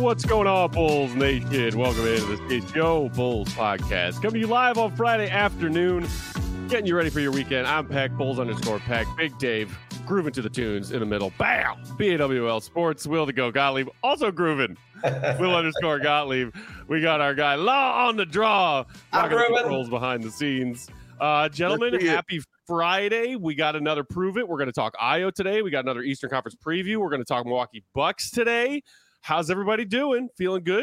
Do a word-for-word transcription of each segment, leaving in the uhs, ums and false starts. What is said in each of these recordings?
What's going on, Bulls Nation? Welcome into the Skate Show Bulls podcast. Coming to you live on Friday afternoon, getting you ready for your weekend. I'm Peck, Bulls underscore Peck, Big Dave, grooving to the tunes in the middle. Bam! B A W L Sports, Will to go Gottlieb, also grooving. Will underscore Gottlieb. We got our guy Law on the draw. Rocking the controls behind the scenes. Uh, gentlemen, happy Friday. We got another Prove It. We're going to talk I O today. We got another Eastern Conference preview. We're going to talk Milwaukee Bucks today. How's everybody doing? Feeling good?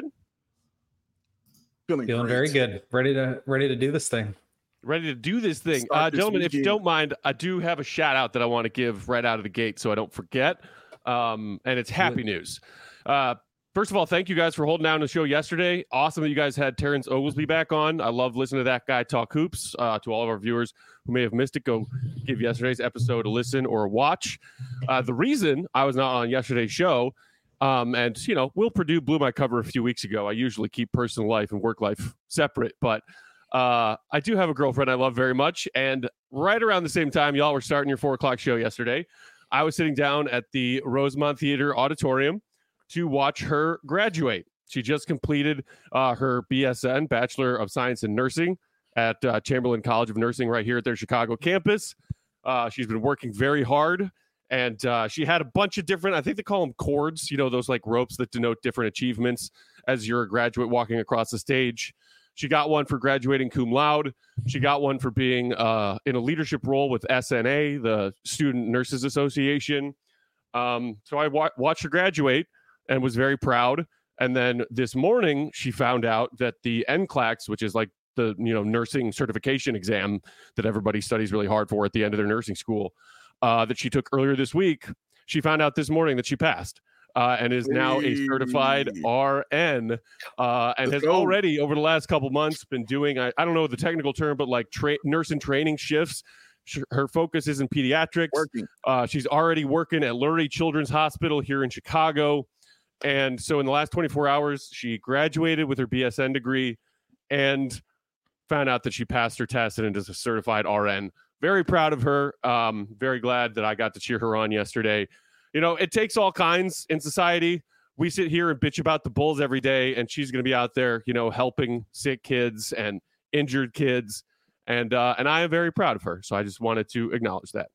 Feeling, Feeling very good. Ready to ready to do this thing. Ready to do this thing. Uh, this gentlemen, weekend. If you don't mind, I do have a shout out that I want to give right out of the gate so I don't forget. Um, and it's happy news. Uh, first of all, thank you guys for holding down the show yesterday. Awesome that you guys had Terrence Oglesby back on. I love listening to that guy talk hoops. Uh, to all of our viewers who may have missed it, go give yesterday's episode a listen or a watch. Uh, the reason I was not on yesterday's show, Um, and, you know, Will Purdue blew my cover a few weeks ago. I usually keep personal life and work life separate, but uh, I do have a girlfriend I love very much. And right around the same time, y'all were starting your four o'clock show yesterday, I was sitting down at the Rosemont Theater Auditorium to watch her graduate. She just completed uh, her B S N, Bachelor of Science in Nursing, at uh, Chamberlain College of Nursing right here at their Chicago campus. Uh, she's been working very hard. And uh, she had a bunch of different, I think they call them cords, you know, those like ropes that denote different achievements as you're a graduate walking across the stage. She got one for graduating cum laude. She got one for being uh, in a leadership role with S N A, the Student Nurses Association. Um, so I wa- watched her graduate and was very proud. And then this morning, she found out that the N C L A C S, which is like the, you know, nursing certification exam that everybody studies really hard for at the end of their nursing school, Uh, that she took earlier this week, she found out this morning that she passed uh, and is now a certified R N uh, and has already, over the last couple months, been doing, I, I don't know the technical term, but like tra- nurse and training shifts. Her focus is in pediatrics. Uh, she's already working at Lurie Children's Hospital here in Chicago. And so in the last twenty-four hours, she graduated with her B S N degree and found out that she passed her test and is a certified R N. Very proud of her. Um, very glad that I got to cheer her on yesterday. You know, it takes all kinds in society. We sit here and bitch about the Bulls every day, and she's going to be out there, you know, helping sick kids and injured kids. And uh, and I am very proud of her. So I just wanted to acknowledge that.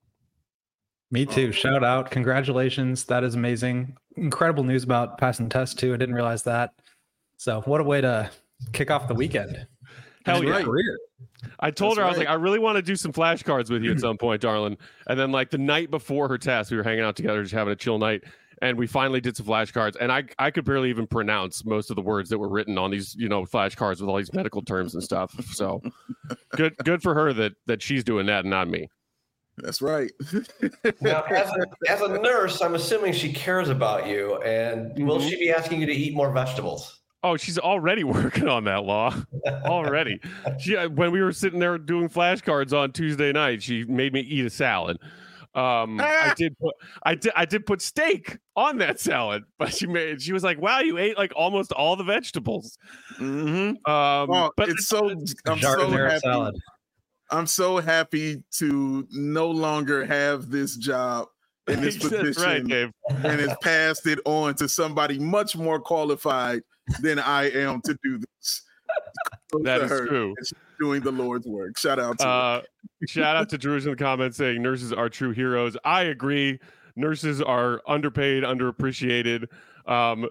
Me too. Shout out. Congratulations. That is amazing. Incredible news about passing the test, too. I didn't realize that. So what a way to kick off the weekend. Hell yeah. Career. I told That's her, I was right. like, I really want to do some flashcards with you at some point, darling. And then like the night before her test, we were hanging out together, just having a chill night. And we finally did some flashcards. And I, I could barely even pronounce most of the words that were written on these, you know, flashcards with all these medical terms and stuff. So good, good for her that, that she's doing that and not me. That's right. Now, as a, as a nurse, I'm assuming she cares about you. And mm-hmm. will she be asking you to eat more vegetables? Oh, she's already working on that, Law. Already. She, when we were sitting there doing flashcards on Tuesday night, she made me eat a salad. Um, I did put, I did, I did put steak on that salad, but she made, she was like, "Wow, you ate like almost all the vegetables." Mm-hmm. Um, oh, but it's so, I'm so happy. Salad. I'm so happy to no longer have this job in this position, That's right, Dave. And has passed it on to somebody much more qualified than I am to do this. That is true. She's doing the Lord's work. Shout out to uh, shout out to Drew's in the comments saying nurses are true heroes. I agree. Nurses are underpaid, underappreciated. Um,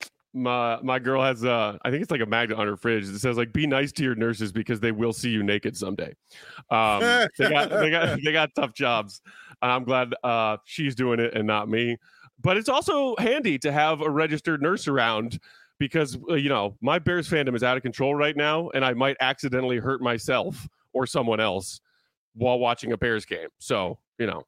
my my girl has uh, I think it's like a magnet on her fridge that says like, "Be nice to your nurses because they will see you naked someday." Um, they got they got they got tough jobs. I'm glad uh, she's doing it and not me. But it's also handy to have a registered nurse around. Because, uh, you know, my Bears fandom is out of control right now, and I might accidentally hurt myself or someone else while watching a Bears game. So, you know.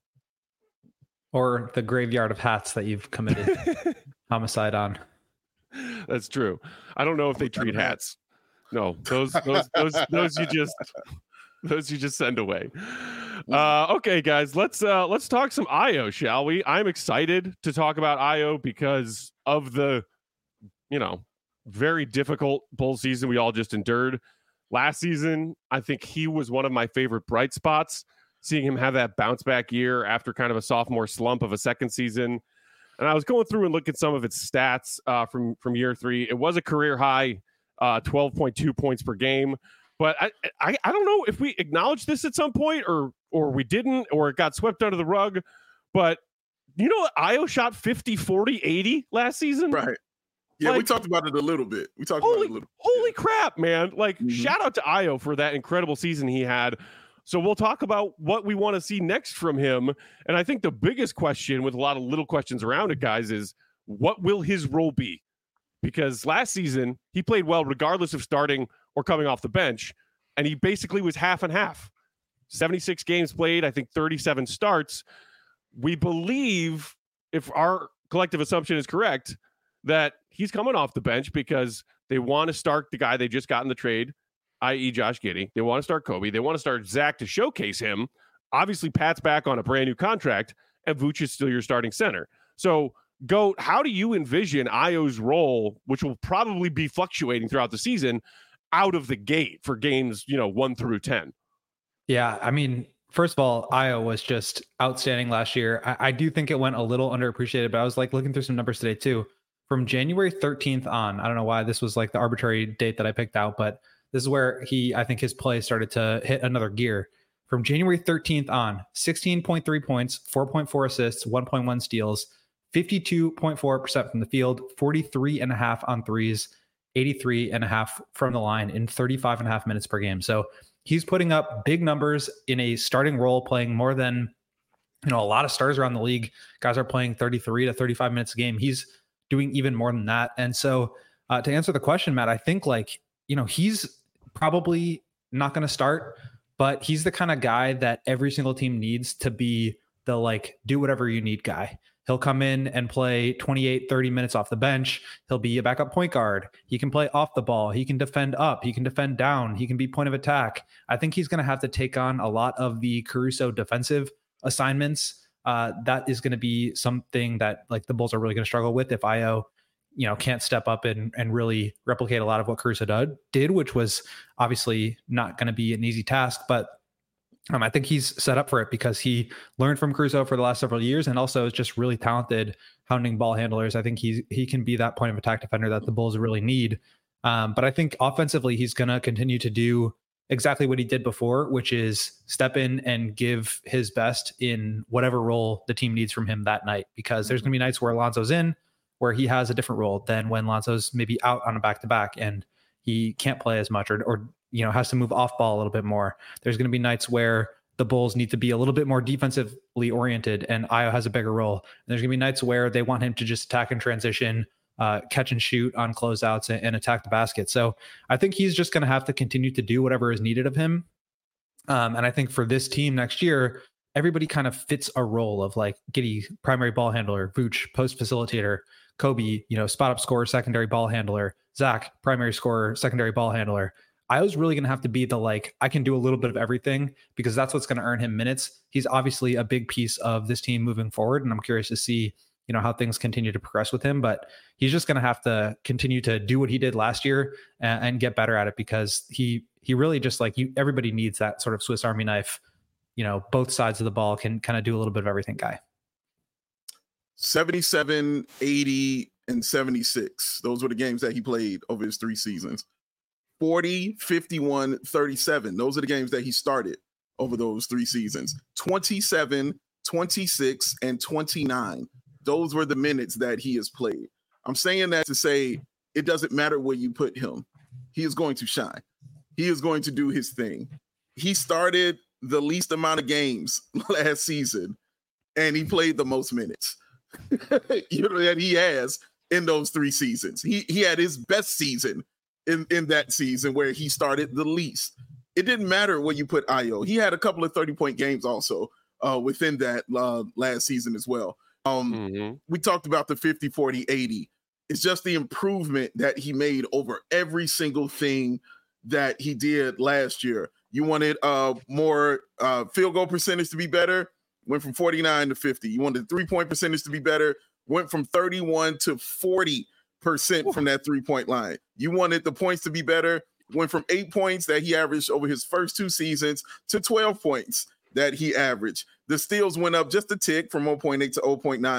Or the graveyard of hats that you've committed homicide on. That's true. I don't know if they treat hats. No, those those those those you just those you just send away. Uh, okay, guys, let's uh, let's talk some I O, shall we? I'm excited to talk about I O because of the, you know, very difficult Bull season we all just endured. Last season, I think he was one of my favorite bright spots, seeing him have that bounce back year after kind of a sophomore slump of a second season. And I was going through and looking at some of its stats uh, from, from year three. It was a career high, uh, twelve point two points per game. But I, I I don't know if we acknowledged this at some point or or we didn't, or it got swept under the rug. But you know what? Ayo shot fifty, forty, eighty last season. Right. Yeah, like, we talked about it a little bit. We talked holy, about it a little bit. Holy crap, man. Like, mm-hmm. shout out to Ayo for that incredible season he had. So we'll talk about what we want to see next from him. And I think the biggest question, with a lot of little questions around it, guys, is what will his role be? Because last season, he played well regardless of starting or coming off the bench. And he basically was half and half. seventy-six games played, I think thirty-seven starts. We believe, if our collective assumption is correct, that he's coming off the bench because they want to start the guy they just got in the trade, that is. Josh Giddey. They want to start Kobe. They want to start Zach to showcase him. Obviously, Pat's back on a brand new contract, and Vooch is still your starting center. So, Goat, how do you envision Ayo's role, which will probably be fluctuating throughout the season, out of the gate for games, you know, one through ten? Yeah, I mean, first of all, Ayo was just outstanding last year. I, I do think it went a little underappreciated, but I was like looking through some numbers today too. From January thirteenth on, I don't know why this was like the arbitrary date that I picked out, but this is where he, I think his play started to hit another gear. From January thirteenth on, sixteen point three points, four point four assists, one point one steals, fifty-two point four percent from the field, forty-three and a half on threes, eighty-three and a half from the line in thirty-five and a half minutes per game. So he's putting up big numbers in a starting role, playing more than, you know, a lot of starters around the league. Guys are playing thirty-three to thirty-five minutes a game. He's doing even more than that. And so uh, to answer the question, Matt, I think like, you know, he's probably not going to start, but he's the kind of guy that every single team needs to be the like, do whatever you need guy. He'll come in and play twenty-eight, thirty minutes off the bench. He'll be a backup point guard. He can play off the ball. He can defend up. He can defend down. He can be point of attack. I think he's going to have to take on a lot of the Caruso defensive assignments. Uh, that is going to be something that like the Bulls are really going to struggle with if Ayo, you know, can't step up and, and really replicate a lot of what Caruso did, did, which was obviously not going to be an easy task, but Um, I think he's set up for it because he learned from Caruso for the last several years and also is just really talented hounding ball handlers. I think he he can be that point of attack defender that the Bulls really need. Um, but I think offensively, he's going to continue to do exactly what he did before, which is step in and give his best in whatever role the team needs from him that night, because there's going to be nights where Lonzo's in, where he has a different role than when Lonzo's maybe out on a back-to-back and he can't play as much or, or you know, has to move off ball a little bit more. There's going to be nights where the Bulls need to be a little bit more defensively oriented and Ayo has a bigger role. And there's going to be nights where they want him to just attack and transition, uh, catch and shoot on closeouts and, and attack the basket. So I think he's just going to have to continue to do whatever is needed of him. Um, and I think for this team next year, everybody kind of fits a role of like Giddey, primary ball handler, Vooch, post facilitator, Kobe, you know, spot up scorer, secondary ball handler, Zach, primary scorer, secondary ball handler. I was really going to have to be the like, I can do a little bit of everything because that's what's going to earn him minutes. He's obviously a big piece of this team moving forward. And I'm curious to see, you know, how things continue to progress with him, but he's just going to have to continue to do what he did last year and, and get better at it because he, he really just like you, everybody needs that sort of Swiss Army knife, you know, both sides of the ball can kind of do a little bit of everything guy. seventy-seven, eighty, and seventy-six. Those were the games that he played over his three seasons. forty, fifty-one, thirty-seven. Those are the games that he started over those three seasons. twenty-seven, twenty-six, and twenty-nine. Those were the minutes that he has played. I'm saying that to say it doesn't matter where you put him. He is going to shine. He is going to do his thing. He started the least amount of games last season, and he played the most minutes you know, that he has in those three seasons. He he had his best season in, in that season where he started the least. It didn't matter where you put Ayo. He had a couple of thirty-point games also uh, within that uh, last season as well. Um, mm-hmm. We talked about the fifty, forty, eighty. It's just the improvement that he made over every single thing that he did last year. You wanted uh, more uh, field goal percentage to be better, went from forty-nine to fifty. You wanted the three-point percentage to be better, went from thirty-one to forty percent from that three-point line. You wanted the points to be better, went from eight points that he averaged over his first two seasons to twelve points that he averaged. The steals went up just a tick from zero point eight to zero point nine.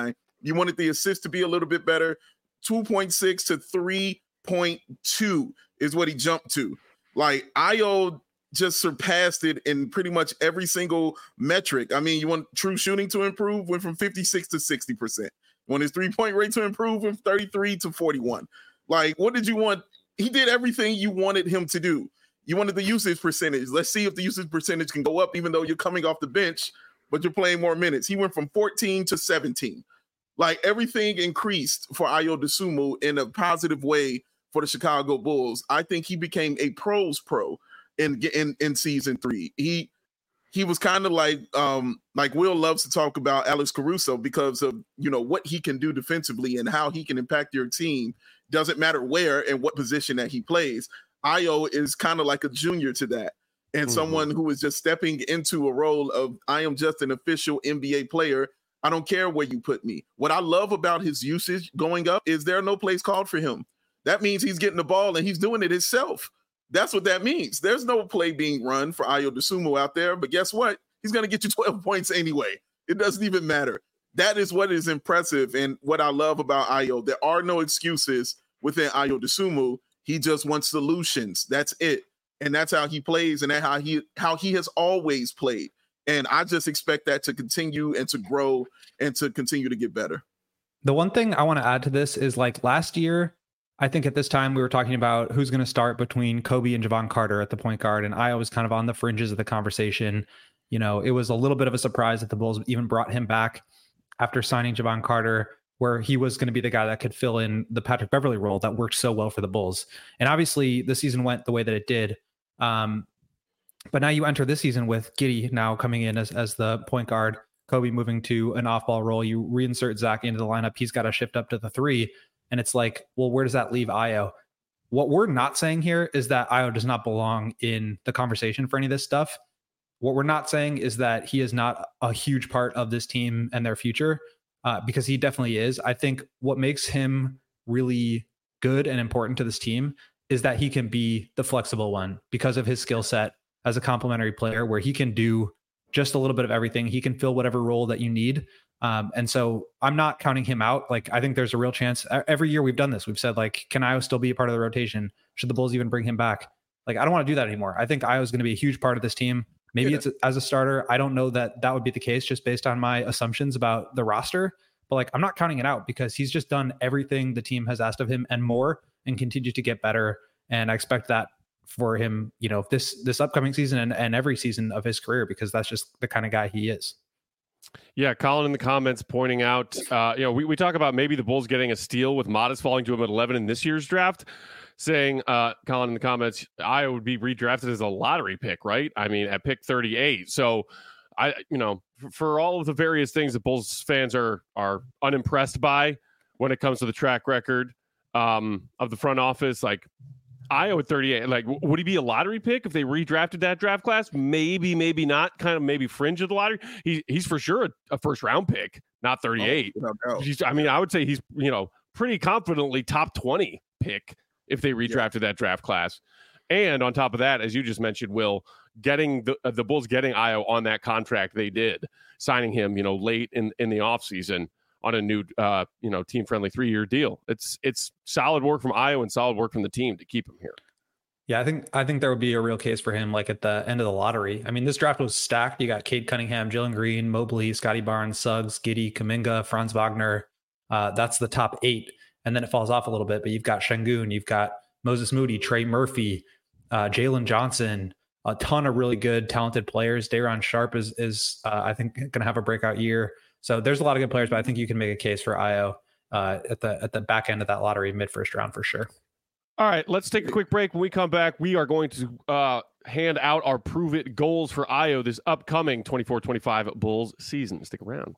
You wanted the assist to be a little bit better. two point six to three point two is what he jumped to. Like, Ayo just surpassed it in pretty much every single metric. I mean, you want true shooting to improve, went from fifty-six to sixty percent. Want his three-point rate to improve, from thirty-three to forty-one. Like, what did you want? He did everything you wanted him to do. You wanted the usage percentage. Let's see if the usage percentage can go up, even though you're coming off the bench, but you're playing more minutes. He went from fourteen to seventeen. Like, everything increased for Ayo Dosunmu in a positive way for the Chicago Bulls. I think he became a pros pro in in, in season three. He he was kind of like um, like Will loves to talk about Alex Caruso because of, you know, what he can do defensively and how he can impact your team. Doesn't matter where and what position that he plays. Ayo is kind of like a junior to that, and mm-hmm. someone who is just stepping into a role of, I am just an official N B A player. I don't care where you put me. What I love about his usage going up is there are no plays called for him. That means he's getting the ball and he's doing it himself. That's what that means. There's no play being run for Ayo Dosunmu out there, but guess what? He's going to get you twelve points anyway. It doesn't even matter. That is what is impressive and what I love about Ayo. There are no excuses within Ayo Dosunmu. He just wants solutions. That's it. And that's how he plays, and that's how he how he has always played. And I just expect that to continue and to grow and to continue to get better. The one thing I want to add to this is, like, last year, I think at this time we were talking about who's going to start between Kobe and Jevon Carter at the point guard. And I was kind of on the fringes of the conversation. You know, it was a little bit of a surprise that the Bulls even brought him back after signing Jevon Carter, where he was going to be the guy that could fill in the Patrick Beverley role that worked so well for the Bulls. And obviously the season went the way that it did. Um, but now you enter this season with Giddey now coming in as, as the point guard, Kobe moving to an off-ball role. You reinsert Zach into the lineup. He's got to shift up to the three. And it's like, well, where does that leave Ayo? What we're not saying here is that Ayo does not belong in the conversation for any of this stuff. What we're not saying is that he is not a huge part of this team and their future, uh, because he definitely is. I think what makes him really good and important to this team is that he can be the flexible one because of his skill set as a complementary player, where he can do just a little bit of everything. He can fill whatever role that you need. Um, and so I'm not counting him out. Like, I think there's a real chance. Every year we've done this. We've said, like, can Ayo still be a part of the rotation? Should the Bulls even bring him back? Like, I don't want to do that anymore. I think Ayo is going to be a huge part of this team. Maybe yeah. it's as a starter. I don't know that that would be the case just based on my assumptions about the roster. But, like, I'm not counting it out because he's just done everything the team has asked of him and more, and continues to get better. And I expect that for him, you know, this this upcoming season and, and every season of his career, because that's just the kind of guy he is. Yeah, Colin in the comments pointing out, uh, you know, we, we talk about maybe the Bulls getting a steal with Modest falling to him at eleven in this year's draft, saying, uh, Colin in the comments, I would be redrafted as a lottery pick, right? I mean, at pick thirty-eight. So, I, you know, for, for all of the various things that Bulls fans are are unimpressed by when it comes to the track record um, of the front office, like, Ayo at thirty-eight, like, would he be a lottery pick if they redrafted that draft class? Maybe, maybe not. Kind of maybe fringe of the lottery. He he's for sure a, a first round pick, not thirty-eight. Oh, no, no. I mean, I would say he's, you know, pretty confidently top twenty pick if they redrafted yeah. that draft class. And on top of that, as you just mentioned, Will, getting the uh, the Bulls getting Ayo on that contract they did, signing him, you know, late in in the offseason on a new, uh, you know, team-friendly three-year deal. It's it's solid work from Ayo and solid work from the team to keep him here. Yeah, I think I think there would be a real case for him, like at the end of the lottery. I mean, this draft was stacked. You got Cade Cunningham, Jalen Green, Mobley, Scotty Barnes, Suggs, Giddey, Kuminga, Franz Wagner. Uh, that's the top eight, and then it falls off a little bit. But you've got Şengün, you've got Moses Moody, Trey Murphy, uh, Jalen Johnson, a ton of really good, talented players. Day'Ron Sharpe is is uh, I think going to have a breakout year. So there's a lot of good players, but I think you can make a case for Ayo uh, at the at the back end of that lottery, mid first round for sure. All right, let's take a quick break. When we come back, we are going to uh, hand out our Prove It goals for Ayo this upcoming twenty-four twenty-five Bulls season. Stick around.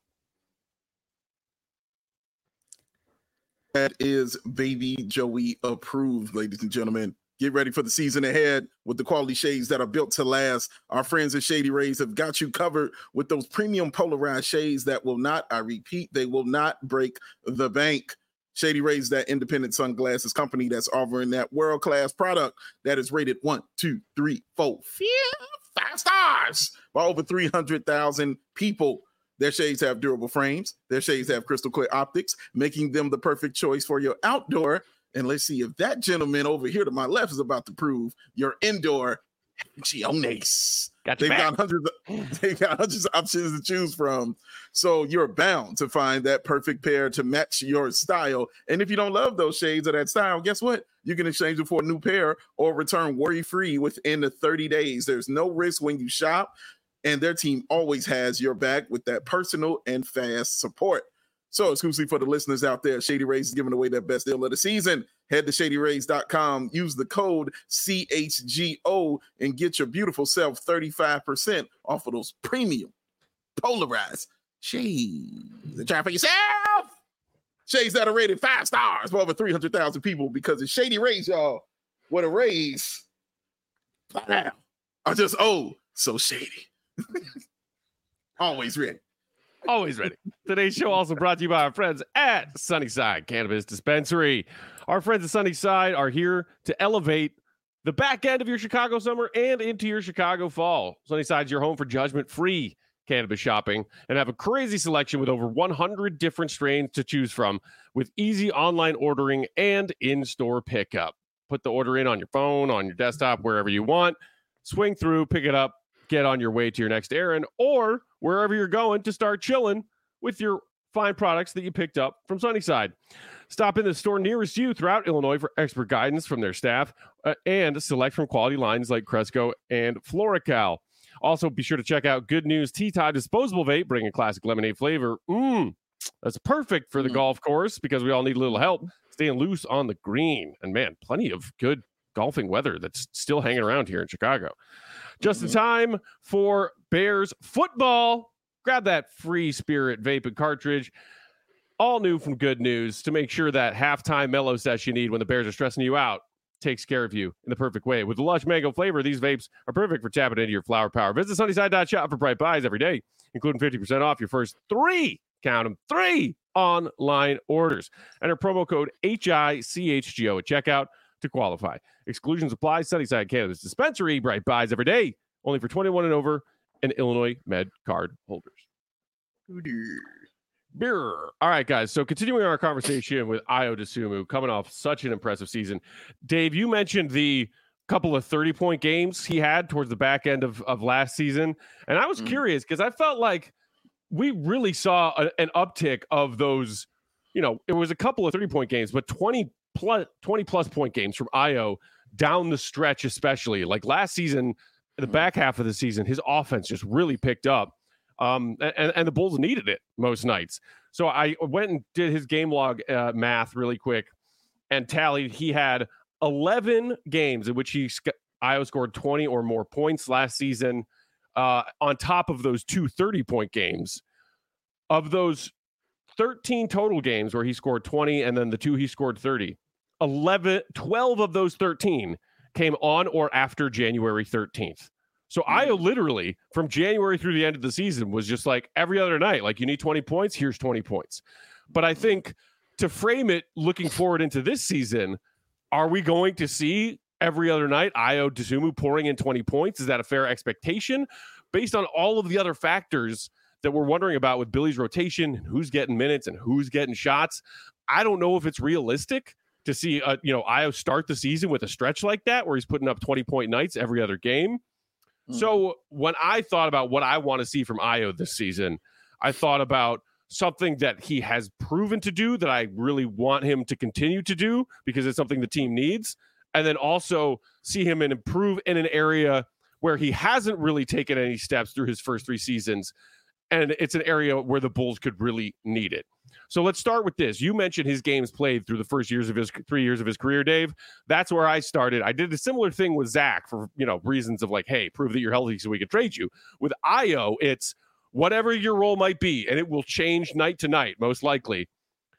That is Baby Joey approved, ladies and gentlemen. Get ready for the season ahead with the quality shades that are built to last. Our friends at Shady Rays have got you covered with those premium polarized shades that will not, I repeat, they will not break the bank. Shady Rays, that independent sunglasses company that's offering that world-class product that is rated one, two, three, four, five stars by over three hundred thousand people. Their shades have durable frames. Their shades have crystal clear optics, making them the perfect choice for your outdoor. And let's see if that gentleman over here to my left is about to prove your indoor Giones. Got they've back. got hundreds of, they've got hundreds of options to choose from. So you're bound to find that perfect pair to match your style. And if you don't love those shades of that style, guess what? You can exchange it for a new pair or return worry-free within the thirty days. There's no risk when you shop, and their team always has your back with that personal and fast support. So exclusively for the listeners out there, Shady Rays is giving away their best deal of the season. Head to shady rays dot com, use the code C H G O, and get your beautiful self thirty-five percent off of those premium polarized shades. Try for yourself. Shades that are rated five stars for over three hundred thousand people because it's Shady Rays, y'all. What a raise. Wow. Are just, oh, so shady. Always ready. Always ready. Today's show also brought to you by our friends at Sunnyside Cannabis Dispensary. Our friends at Sunnyside are here to elevate the back end of your Chicago summer and into your Chicago fall. Sunnyside's your home for judgment-free cannabis shopping and have a crazy selection with over one hundred different strains to choose from with easy online ordering and in-store pickup. Put the order in on your phone, on your desktop, wherever you want. Swing through, pick it up, get on your way to your next errand, or wherever you're going to start chilling with your fine products that you picked up from Sunnyside. Stop in the store nearest you throughout Illinois for expert guidance from their staff uh, and select from quality lines like Cresco and Floracal. Also, be sure to check out Good News Tea Time Disposable Vape, bringing classic lemonade flavor. Mmm, that's perfect for the mm. golf course because we all need a little help staying loose on the green. And man, plenty of good golfing weather that's still hanging around here in Chicago. Just in time for Bears football. Grab that free Spirit vape and cartridge. All new from Good News to make sure that halftime mellow sesh you need when the Bears are stressing you out takes care of you in the perfect way. With the lush mango flavor, these vapes are perfect for tapping into your flower power. Visit sunnyside dot shop for bright buys every day, including fifty percent off your first three, count them, three online orders. Enter promo code H I C H G O at checkout to qualify. Exclusions apply. Sunnyside Cannabis Dispensary. Bright buys every day. Only for twenty-one and over and Illinois Med card holders. Beer. All right, guys. So continuing our conversation with Ayo Dosunmu, coming off such an impressive season. Dave, you mentioned the couple of thirty-point games he had towards the back end of, of last season. And I was mm. curious because I felt like we really saw a, an uptick of those, you know, it was a couple of thirty-point games, but twenty plus, twenty plus point games from Ayo down the stretch, especially. Like last season, the back half of the season, his offense just really picked up. Um, and, and the Bulls needed it most nights. So I went and did his game log uh, math really quick and tallied. He had eleven games in which he Ayo scored twenty or more points last season, uh, on top of those two thirty-point games. Of those thirteen total games where he scored twenty and then the two he scored thirty, eleven, twelve of those thirteen came on or after January thirteenth. So Ayo literally from January through the end of the season was just like every other night, like you need twenty points, here's twenty points. But I think to frame it looking forward into this season, are we going to see every other night Ayo Dosunmu pouring in twenty points? Is that a fair expectation based on all of the other factors that we're wondering about with Billy's rotation and who's getting minutes and who's getting shots? I don't know if it's realistic to see uh, you know, Ayo start the season with a stretch like that where he's putting up twenty point nights every other game. So when I thought about what I want to see from Ayo this season, I thought about something that he has proven to do that I really want him to continue to do because it's something the team needs. And then also see him and improve in an area where he hasn't really taken any steps through his first three seasons. And it's an area where the Bulls could really need it. So let's start with this. You mentioned his games played through the first years of his three years of his career, Dave. That's where I started. I did a similar thing with Zach for, you know, reasons of like, hey, prove that you're healthy so we can trade you. With Ayo, it's whatever your role might be, and it will change night to night, most likely.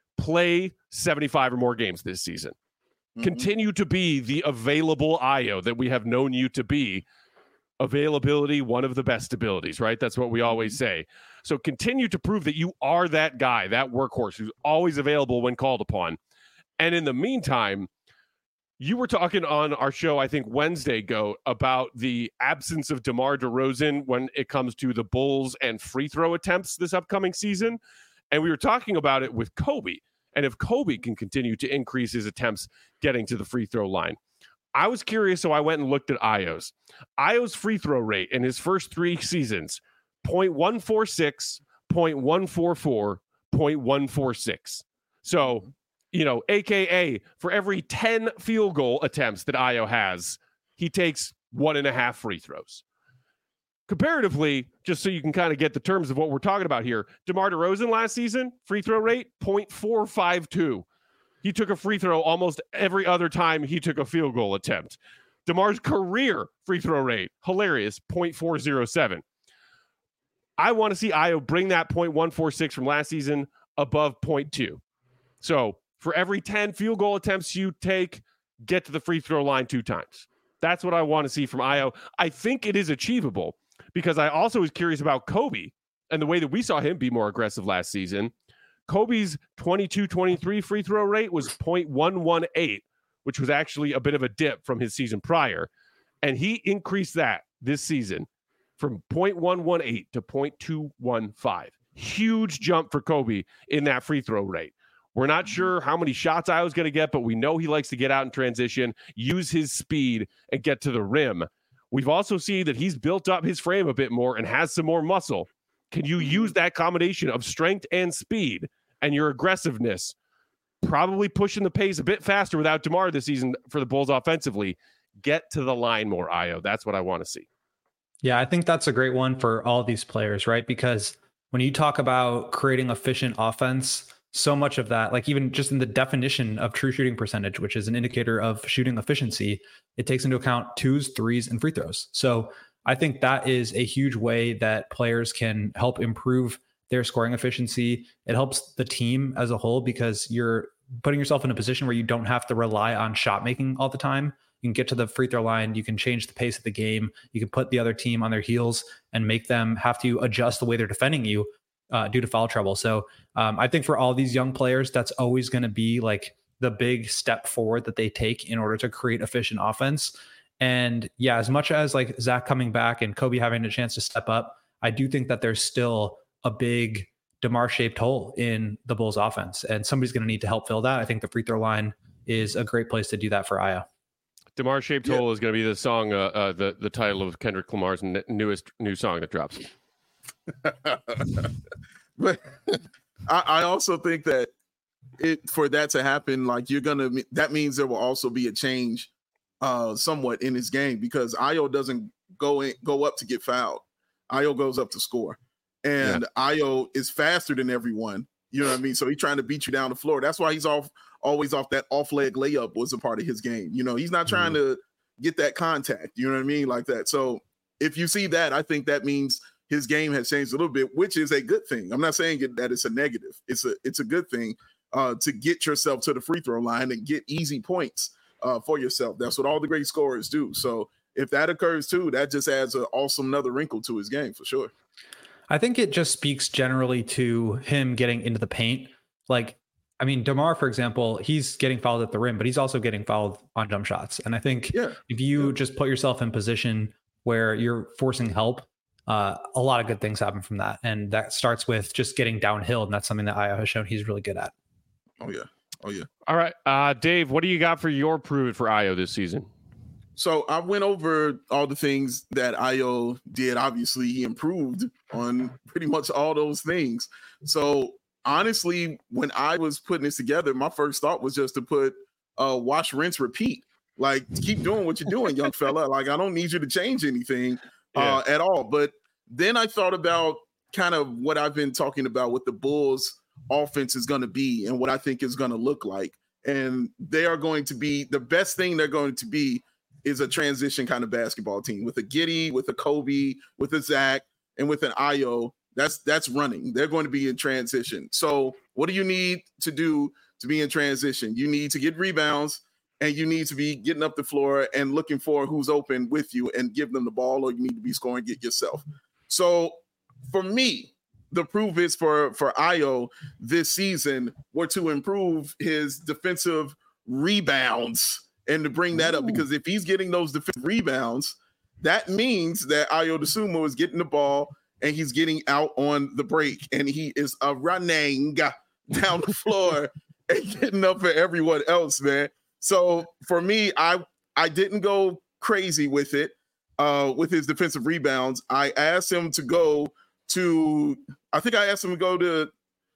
Play seventy-five or more games this season. Mm-hmm. Continue to be the available Ayo that we have known you to be. Availability, one of the best abilities, right? That's what we always say. So continue to prove that you are that guy, that workhorse who's always available when called upon. And in the meantime, You were talking on our show, I think Wednesday, Go, about the absence of DeMar DeRozan when it comes to the Bulls and free throw attempts this upcoming season. And we were talking about it with Kobe. And if Kobe can continue to increase his attempts getting to the free throw line. I was curious, so I went and looked at Ayo's. Ayo's free throw rate in his first three seasons, point one four six, point one four four, point one four six. So, you know, A K A for every ten field goal attempts that Ayo has, he takes one and a half free throws. Comparatively, just so you can kind of get the terms of what we're talking about here, DeMar DeRozan last season, free throw rate, point four five two. He took a free throw almost every other time he took a field goal attempt. DeMar's career free throw rate, hilarious, point four oh seven. I want to see Ayo bring that point one four six from last season above point two. So for every ten field goal attempts you take, get to the free throw line two times. That's what I want to see from Ayo. I think it is achievable because I also was curious about Kobe and the way that we saw him be more aggressive last season. Kobe's twenty-two twenty-three free throw rate was point one one eight, which was actually a bit of a dip from his season prior. And he increased that this season from point one one eight to point two one five. Huge jump for Kobe in that free throw rate. We're not sure how many shots I was going to get, but we know he likes to get out in transition, use his speed, and get to the rim. We've also seen that he's built up his frame a bit more and has some more muscle. Can you use that combination of strength and speed and your aggressiveness, probably pushing the pace a bit faster without DeMar this season for the Bulls offensively? Get to the line more, Ayo. That's what I want to see. Yeah, I think that's a great one for all these players, right? Because when you talk about creating efficient offense, so much of that, like even just in the definition of true shooting percentage, which is an indicator of shooting efficiency, it takes into account twos, threes, and free throws. So I think that is a huge way that players can help improve their scoring efficiency. It helps the team as a whole because you're putting yourself in a position where you don't have to rely on shot making all the time. You can get to the free throw line. You can change the pace of the game. You can put the other team on their heels and make them have to adjust the way they're defending you uh, due to foul trouble. So um, I think for all these young players, that's always going to be like the big step forward that they take in order to create efficient offense. And yeah, as much as like Zach coming back and Kobe having a chance to step up, I do think that there's still a big DeMar shaped hole in the Bulls offense, and somebody's going to need to help fill that. I think the free throw line is a great place to do that for Ayo. DeMar shaped yeah. hole is going to be the song, uh, uh, the the title of Kendrick Lamar's n- newest new song that drops. But I, I also think that it for that to happen, like you're gonna, that means there will also be a change, uh, somewhat in his game because Ayo doesn't go in, go up to get fouled. Ayo goes up to score, and yeah. Ayo is faster than everyone. You know what I mean? So he's trying to beat you down the floor. That's why he's off. Always off that off leg layup was a part of his game. You know, he's not trying mm-hmm. to get that contact. You know what I mean? Like that. So if you see that, I think that means his game has changed a little bit, which is a good thing. I'm not saying that it's a negative. It's a it's a good thing uh, to get yourself to the free throw line and get easy points uh, for yourself. That's what all the great scorers do. So if that occurs too, that just adds an awesome another wrinkle to his game for sure. I think it just speaks generally to him getting into the paint. Like, I mean, DeMar, for example, he's getting fouled at the rim, but he's also getting fouled on jump shots. And I think yeah. if you yeah. just put yourself in position where you're forcing help, uh, a lot of good things happen from that. And that starts with just getting downhill. And that's something that Ayo has shown he's really good at. Oh, yeah. Oh, yeah. All right. Uh, Dave, what do you got for your prove it for Ayo this season? So I went over all the things that Ayo did. Obviously, he improved on pretty much all those things. So honestly, when I was putting this together, my first thought was just to put uh, wash, rinse, repeat. Like, keep doing what you're doing, young fella. Like, I don't need you to change anything uh, yeah. at all. But then I thought about kind of what I've been talking about, what the Bulls offense is going to be and what I think is going to look like. And they are going to be, the best thing they're going to be is a transition kind of basketball team with a Giddey, with a Kobe, with a Zach, and with an Ayo. That's that's running. They're going to be in transition. So what do you need to do to be in transition? You need to get rebounds, and you need to be getting up the floor and looking for who's open with you and give them the ball, or you need to be scoring it yourself. So for me, the proof is for, for Ayo this season were to improve his defensive rebounds And to bring that Ooh. up, because if he's getting those defensive rebounds, that means that Ayo Dosunmu is getting the ball and he's getting out on the break, and he is uh, running down the floor and getting up for everyone else, man. So for me, I I didn't go crazy with it, uh, with his defensive rebounds. I asked him to go to, I think I asked him to go to,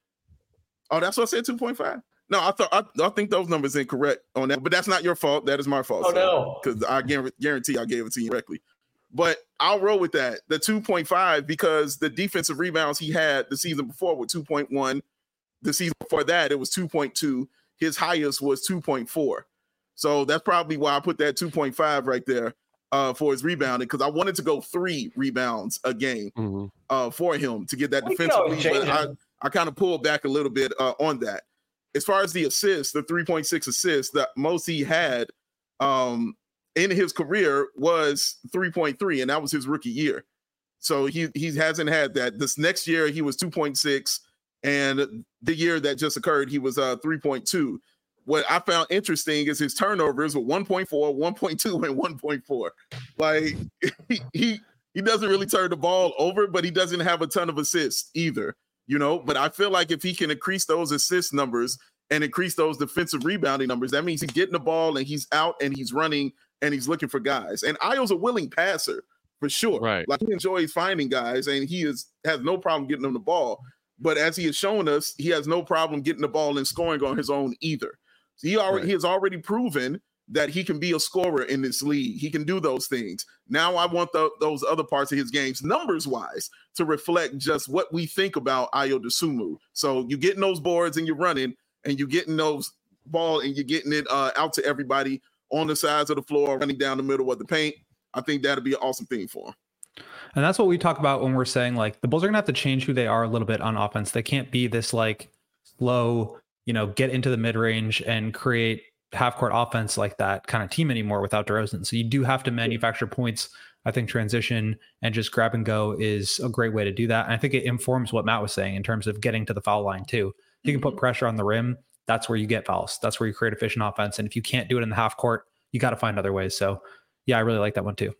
oh, that's what I said, two point five? No, I thought I, I think those numbers incorrect on that, but that's not your fault. That is my fault. Oh, so, no. Because I guarantee I gave it to you correctly. But I'll roll with that, the two point five, because the defensive rebounds he had the season before were two point one. The season before that, it was two point two. His highest was two point four. So that's probably why I put that two point five right there uh, for his rebounding, because I wanted to go three rebounds a game mm-hmm. uh, for him to get that well, defensive lead. But I, I kind of pulled back a little bit uh, on that. As far as the assists, the three point six assists, the most he had um, in his career was three point three, and that was his rookie year. So he he hasn't had that. This next year, he was two point six, and the year that just occurred, he was uh, three point two. What I found interesting is his turnovers were one point four, one point two, and one point four. Like, he, he he doesn't really turn the ball over, but he doesn't have a ton of assists either. You know, but I feel like if he can increase those assist numbers and increase those defensive rebounding numbers, that means he's getting the ball and he's out and he's running and he's looking for guys. And Ayo's a willing passer for sure. Right. Like, he enjoys finding guys and he is has no problem getting them the ball. But as he has shown us, he has no problem getting the ball and scoring on his own either. So he already right. he has already proven that he can be a scorer in this league. He can do those things. Now I want the, those other parts of his games, numbers-wise, to reflect just what we think about Ayo Dosunmu. So you're getting those boards and you're running, and you're getting those ball and you're getting it uh, out to everybody on the sides of the floor, running down the middle of the paint. I think that'd be an awesome thing for him. And that's what we talk about when we're saying, like, the Bulls are going to have to change who they are a little bit on offense. They can't be this, like, slow, you know, get into the mid-range and create half-court offense like that kind of team anymore without DeRozan. So you do have to manufacture points. I think transition and just grab and go is a great way to do that. And I think it informs what Matt was saying in terms of getting to the foul line too. If you can put pressure on the rim, that's where you get fouls. That's where you create efficient offense. And if you can't do it in the half court, you got to find other ways. So yeah, I really like that one too.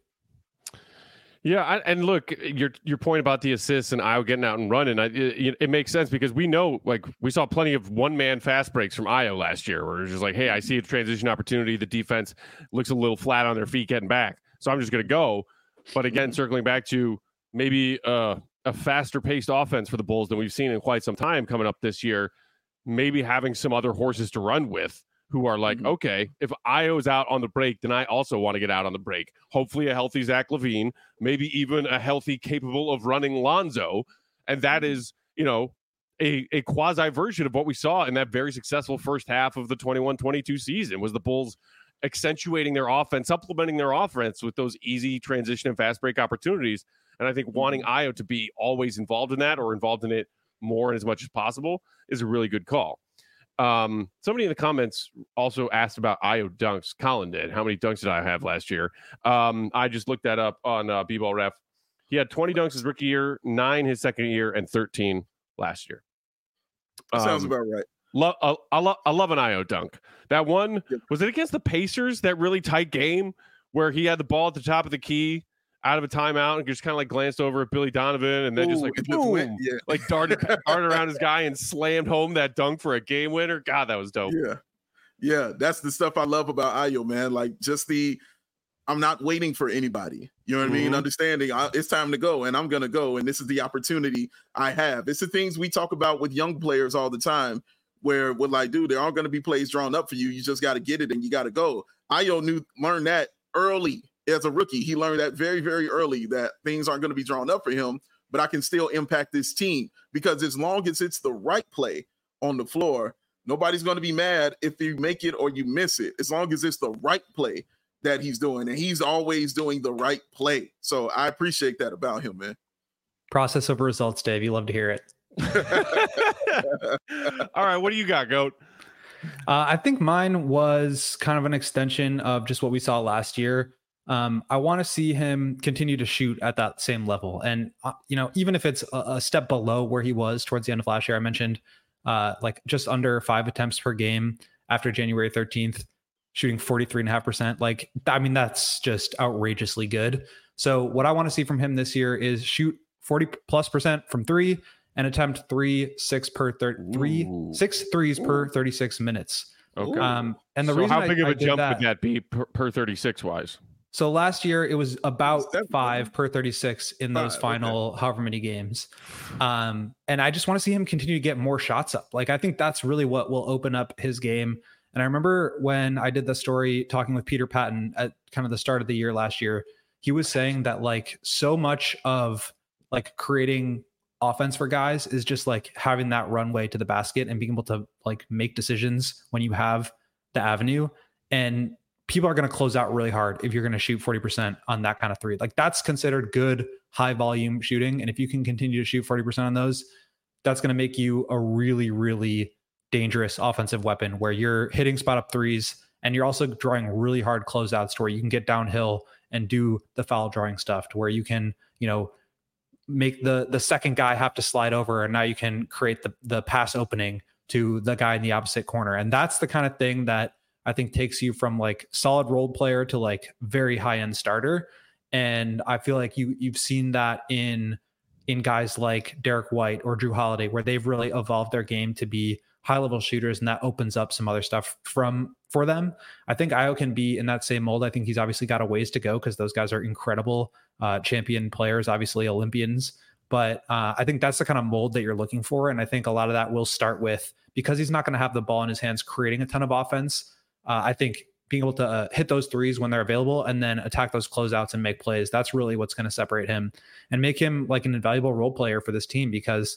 Yeah, I, and look, your your point about the assists and Ayo getting out and running, I, it, it makes sense because we know, like, we saw plenty of one-man fast breaks from Ayo last year where it's just like, hey, I see a transition opportunity. The defense looks a little flat on their feet getting back, so I'm just going to go. But again, circling back to maybe uh, a faster-paced offense for the Bulls than we've seen in quite some time coming up this year, maybe having some other horses to run with who are like, mm-hmm. okay, if Ayo's out on the break, then I also want to get out on the break. Hopefully a healthy Zach LaVine, maybe even a healthy, capable of running Lonzo. And that is, you know, a, a quasi version of what we saw in that very successful first half of the twenty-one twenty-two season, was the Bulls accentuating their offense, supplementing their offense with those easy transition and fast break opportunities. And I think wanting Ayo to be always involved in that, or involved in it more and as much as possible, is a really good call. Um, somebody in the comments also asked about Ayo dunks. Colin did. How many dunks did I have last year? Um, I just looked that up on uh, B-Ball Ref. He had twenty dunks his rookie year, nine his second year, and thirteen last year. Um, sounds about right. Lo- I, I, lo- I love an Ayo dunk. That one, was it against the Pacers, that really tight game where he had the ball at the top of the key out of a timeout and just kind of like glanced over at Billy Donovan and then Ooh, just like boom, just yeah. like darted, darted around his guy and slammed home that dunk for a game winner. God, that was dope. Yeah. Yeah. That's the stuff I love about Ayo, man. Like, just the, I'm not waiting for anybody. You know what mm-hmm. I mean? Understanding I, it's time to go and I'm going to go. And this is the opportunity I have. It's the things we talk about with young players all the time, where we're like, dude, there aren't going to be plays drawn up for you. You just got to get it and you got to go. Ayo knew, learned that early. As a rookie, he learned that very, very early, that things aren't going to be drawn up for him, but I can still impact this team, because as long as it's the right play on the floor, nobody's going to be mad if you make it or you miss it, as long as it's the right play that he's doing. And he's always doing the right play. So I appreciate that about him, man. Process of results, Dave. You love to hear it. All right. What do you got, Goat? Uh, I think mine was kind of an extension of just what we saw last year. Um, I want to see him continue to shoot at that same level. And, uh, you know, even if it's a, a step below where he was towards the end of last year, I mentioned uh, like just under five attempts per game after January thirteenth. shooting forty-three and a half percent. Like, I mean, that's just outrageously good. So what I want to see from him this year is shoot forty plus percent from three and attempt three, six per thirty, three, six threes Ooh. per thirty-six minutes. Okay. Um, and the so reason how big I, of a I jump that, would that be per, per thirty-six wise? So last year it was about five per thirty-six in those five, final okay. however many games. Um, and I just want to see him continue to get more shots up. Like, I think that's really what will open up his game. And I remember when I did the story talking with Peter Patton at kind of the start of the year last year, he was saying that like so much of like creating offense for guys is just like having that runway to the basket and being able to like make decisions when you have the avenue. And people are going to close out really hard if you're going to shoot forty percent on that kind of three. Like, that's considered good high volume shooting. And if you can continue to shoot forty percent on those, that's going to make you a really, really dangerous offensive weapon where you're hitting spot up threes and you're also drawing really hard closeouts to where you can get downhill and do the foul drawing stuff to where you can, you know, make the the second guy have to slide over, and now you can create the the pass opening to the guy in the opposite corner. And that's the kind of thing that I think takes you from like solid role player to like very high end starter. And I feel like you you've seen that in in guys like Derek White or Drew Holiday, where they've really evolved their game to be high level shooters, and that opens up some other stuff from for them. I think Ayo can be in that same mold. I think he's obviously got a ways to go because those guys are incredible uh, champion players, obviously Olympians. But uh, I think that's the kind of mold that you're looking for. And I think a lot of that will start with, because he's not going to have the ball in his hands creating a ton of offense. Uh, I think being able to uh, hit those threes when they're available and then attack those closeouts and make plays, that's really what's going to separate him and make him like an invaluable role player for this team, because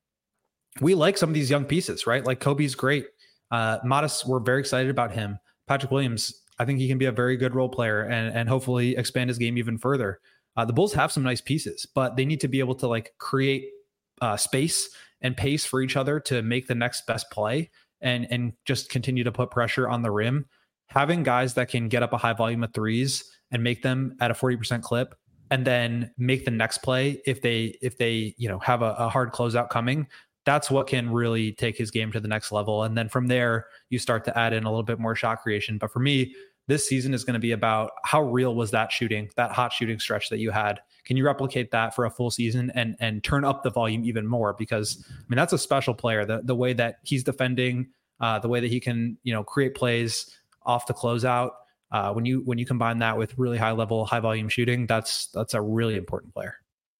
we like some of these young pieces, right? Like Kobe's great. Uh, Modest, we're very excited about him. Patrick Williams, I think he can be a very good role player and, and hopefully expand his game even further. Uh, the Bulls have some nice pieces, but they need to be able to like create uh, space and pace for each other to make the next best play and, and just continue to put pressure on the rim. Having guys that can get up a high volume of threes and make them at a forty percent clip and then make the next play if they, if they, you know, have a, a hard closeout coming, that's what can really take his game to the next level. And then from there, you start to add in a little bit more shot creation. But for me, this season is going to be about how real was that shooting, that hot shooting stretch that you had. Can you replicate that for a full season and and turn up the volume even more? Because I mean, that's a special player. The the way that he's defending, uh, the way that he can, you know, create plays off the closeout. Uh, when you when you combine that with really high level, high volume shooting, that's that's a really important player.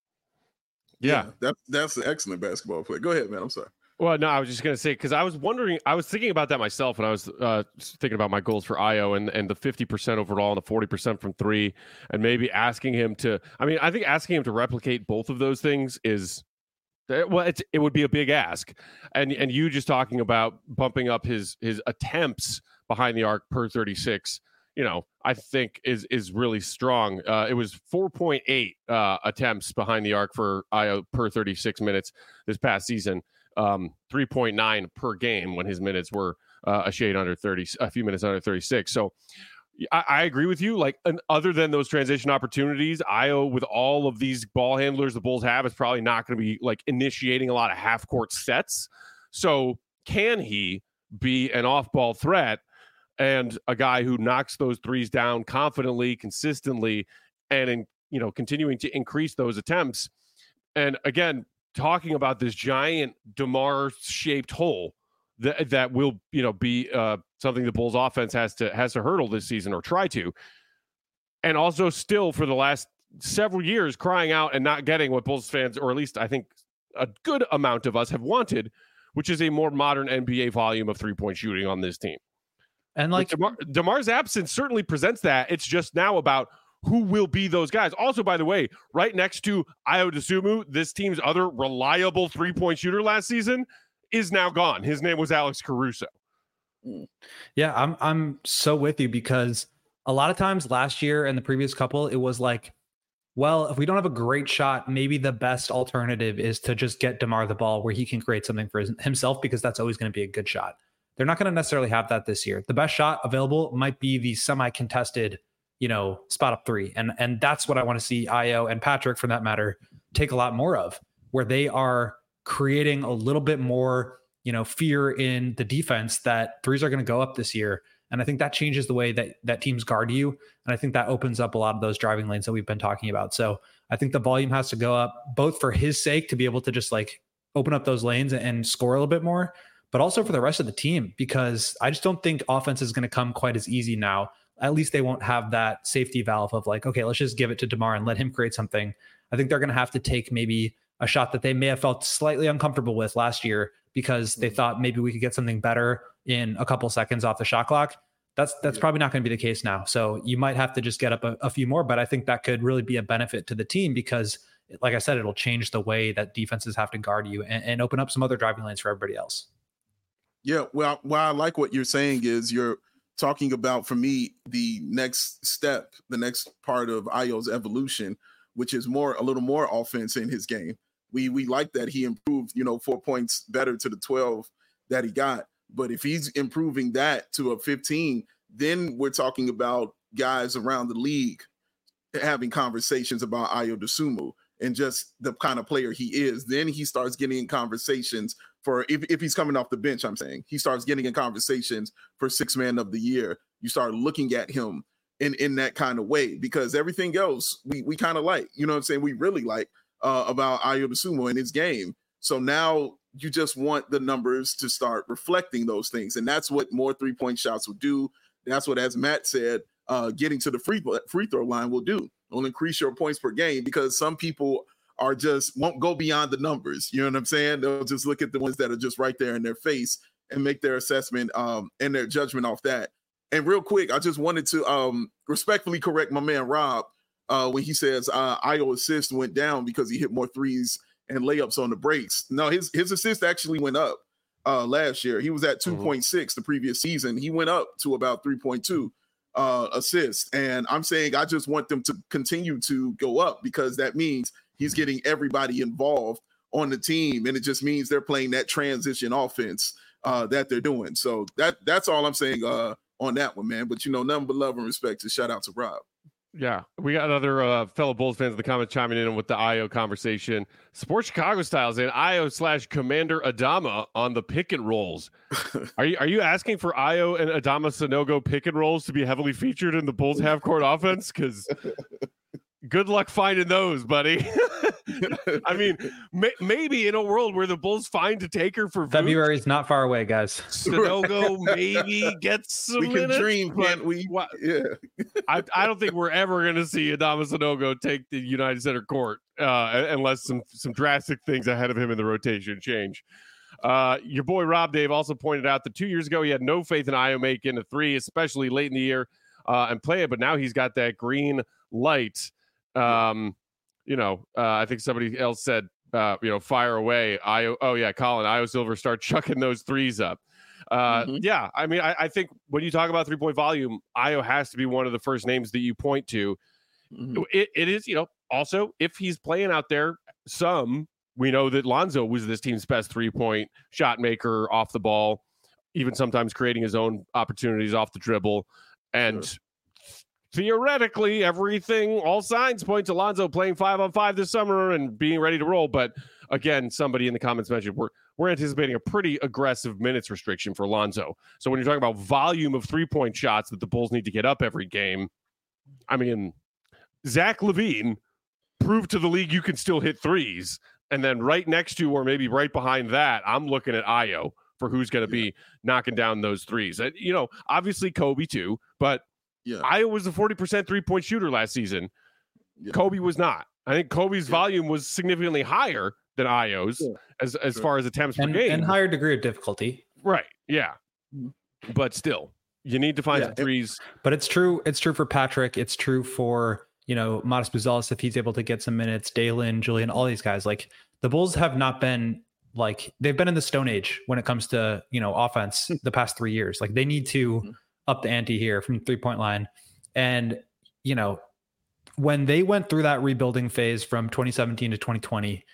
Yeah, yeah that, that's an excellent basketball player. Go ahead, man. I'm sorry. Well, no, I was just going to say, because I was wondering, I was thinking about that myself when I was uh, thinking about my goals for Ayo and, and the fifty percent overall and the forty percent from three, and maybe asking him to, I mean, I think asking him to replicate both of those things is, well, it's, it would be a big ask. And and you just talking about bumping up his his attempts behind the arc per thirty-six, you know, I think is is really strong. Uh, it was four point eight uh, attempts behind the arc for Ayo per thirty-six minutes this past season. Um, three point nine per game when his minutes were uh, a shade under thirty, a few minutes under thirty-six. So I, I agree with you. Like, an, other than those transition opportunities, Ayo, with all of these ball handlers the Bulls have, is probably not going to be like initiating a lot of half court sets. So can he be an off ball threat and a guy who knocks those threes down confidently, consistently, and in, you know, continuing to increase those attempts? And again, talking about this giant DeMar-shaped hole that that will, you know, be uh, something the Bulls offense has to has to hurdle this season, or try to, and also still for the last several years crying out and not getting what Bulls fans, or at least I think a good amount of us, have wanted, which is a more modern N B A volume of three-point shooting on this team. And like DeMar, DeMar's absence certainly presents that. It's just now about who will be those guys. Also, by the way, right next to Ayo Dosunmu, this team's other reliable three-point shooter last season, is now gone. His name was Alex Caruso. Yeah, I'm I'm so with you, because a lot of times last year and the previous couple, it was like, well, if we don't have a great shot, maybe the best alternative is to just get DeMar the ball where he can create something for his, himself, because that's always going to be a good shot. They're not going to necessarily have that this year. The best shot available might be the semi-contested, you know, spot up three. And, and that's what I want to see Ayo and Patrick, for that matter, take a lot more of, where they are creating a little bit more, you know, fear in the defense that threes are going to go up this year. And I think that changes the way that, that teams guard you. And I think that opens up a lot of those driving lanes that we've been talking about. So I think the volume has to go up both for his sake to be able to just like open up those lanes and score a little bit more, but also for the rest of the team, because I just don't think offense is going to come quite as easy now. At least they won't have that safety valve of like, okay, let's just give it to DeMar and let him create something. I think they're going to have to take maybe a shot that they may have felt slightly uncomfortable with last year because they thought maybe we could get something better in a couple seconds off the shot clock. That's that's yeah. probably not going to be the case now. So you might have to just get up a, a few more, but I think that could really be a benefit to the team because, like I said, it'll change the way that defenses have to guard you and, and open up some other driving lanes for everybody else. Yeah, well, well, I like what you're saying is you're talking about, for me, the next step, the next part of Ayo's evolution, which is more a little more offense in his game. We we like that he improved, you know, four points better to the twelve that he got. But if he's improving that to a fifteen, then we're talking about guys around the league having conversations about Ayo Dosunmu and just the kind of player he is. Then he starts getting in conversations for, if, if he's coming off the bench, I'm saying, he starts getting in conversations for six man of the year. You start looking at him in, in that kind of way, because everything else we, we kind of like, you know what I'm saying? We really like uh, about Ayo Dosunmu in his game. So now you just want the numbers to start reflecting those things. And that's what more three-point shots will do. That's what, as Matt said, uh, getting to the free, free throw line will do. It'll increase your points per game, because some people are just won't go beyond the numbers. You know what I'm saying? They'll just look at the ones that are just right there in their face and make their assessment um, and their judgment off that. And real quick, I just wanted to um, respectfully correct my man Rob uh, when he says uh, Ayo assist went down because he hit more threes and layups on the breaks. No, his his assist actually went up uh, last year. He was at two point six mm-hmm. the previous season. He went up to about three point two uh, assists. And I'm saying I just want them to continue to go up, because that means he's getting everybody involved on the team. And it just means they're playing that transition offense uh, that they're doing. So that that's all I'm saying uh, on that one, man. But, you know, nothing but love and respect, to shout out to Rob. Yeah, we got other uh, fellow Bulls fans in the comments chiming in with the Ayo conversation. Sports Chicago styles in Ayo slash Commander Adama on the pick and rolls. Are you are you asking for Ayo and Adama Sanogo pick and rolls to be heavily featured in the Bulls half court offense? Because good luck finding those, buddy. I mean, may, maybe in a world where the Bulls find a taker for February is not far away, guys. Sanogo maybe gets some We can minutes, dream, can't we? What, yeah. I, I don't think we're ever going to see Adama Sanogo take the United Center court uh, unless some some drastic things ahead of him in the rotation change. Uh, your boy Rob Dave also pointed out that two years ago he had no faith in Ayo making a three, especially late in the year, uh, and play it. But now he's got that green light. Um, you know, uh, I think somebody else said, uh, you know, fire away. Ayo, oh yeah, Colin, Ayo Silver, start chucking those threes up. Uh, mm-hmm. Yeah, I mean, I, I think when you talk about three point volume, Ayo has to be one of the first names that you point to. Mm-hmm. It, it is, you know, also if he's playing out there, some we know that Lonzo was this team's best three point shot maker off the ball, even sometimes creating his own opportunities off the dribble, and. Sure. Theoretically, everything, all signs point to Lonzo playing five on five this summer and being ready to roll. But again, somebody in the comments mentioned we're we're anticipating a pretty aggressive minutes restriction for Lonzo. So when you're talking about volume of three point shots that the Bulls need to get up every game, I mean, Zach LaVine proved to the league you can still hit threes. And then right next to, or maybe right behind that, I'm looking at Ayo for who's going to yeah. be knocking down those threes. And, you know, obviously Kobe too, but yeah. Ayo was a forty percent three-point shooter last season. Yeah. Kobe was not. I think Kobe's yeah. volume was significantly higher than Ayo's yeah. as, as sure. far as attempts and, per game. And higher degree of difficulty. Right, yeah. Mm-hmm. But still, you need to find yeah. some threes. But it's true. It's true for Patrick. It's true for, you know, Matas Buzelis if he's able to get some minutes, Dalen, Julian, all these guys. Like, the Bulls have not been, like, they've been in the Stone Age when it comes to, you know, offense the past three years. Like, they need to... Mm-hmm. up the ante here from the three-point line. And, you know, when they went through that rebuilding phase from twenty seventeen to twenty twenty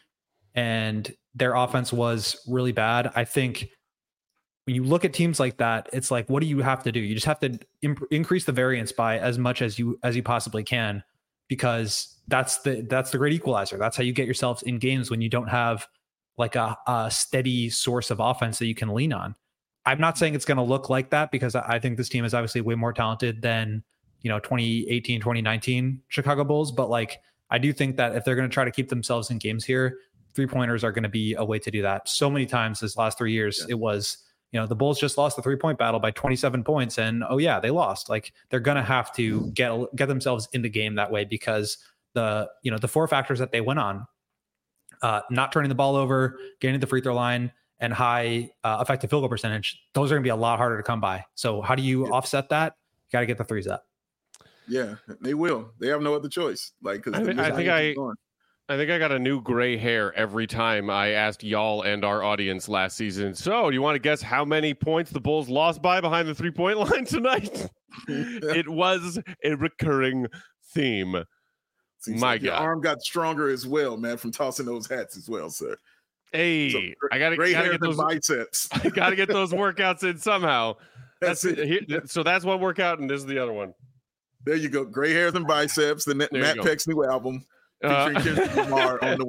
and their offense was really bad, I think when you look at teams like that, it's like, what do you have to do? You just have to imp- increase the variance by as much as you as you possibly can, because that's the that's the great equalizer. That's how you get yourselves in games when you don't have like a, a steady source of offense that you can lean on. I'm not saying it's going to look like that because I think this team is obviously way more talented than, you know, twenty eighteen, twenty nineteen Chicago Bulls. But like, I do think that if they're going to try to keep themselves in games here, three pointers are going to be a way to do that. So many times this last three years, yeah. it was, you know, the Bulls just lost the three point battle by twenty-seven points and, oh yeah, they lost. Like they're going to have to get, get themselves in the game that way because the, you know, the four factors that they went on, uh, not turning the ball over, getting to the free throw line, and high uh, effective field goal percentage, those are going to be a lot harder to come by. So how do you yeah. offset that? You got to get the threes up. Yeah, they will. They have no other choice. Like, because I, I think I, I think I got a new gray hair every time I asked y'all and our audience last season. So, do you want to guess how many points the Bulls lost by behind the three point line tonight? It was a recurring theme. Seems My like God, your arm got stronger as well, man, from tossing those hats as well, sir. Hey, so, I gotta, gray gotta hair get those biceps. I gotta get those workouts in somehow. That's, that's it. Here, so that's one workout, and this is the other one. There you go. Gray hairs and biceps. The there Matt Peck's new album featuring uh, Kendrick Lamar on the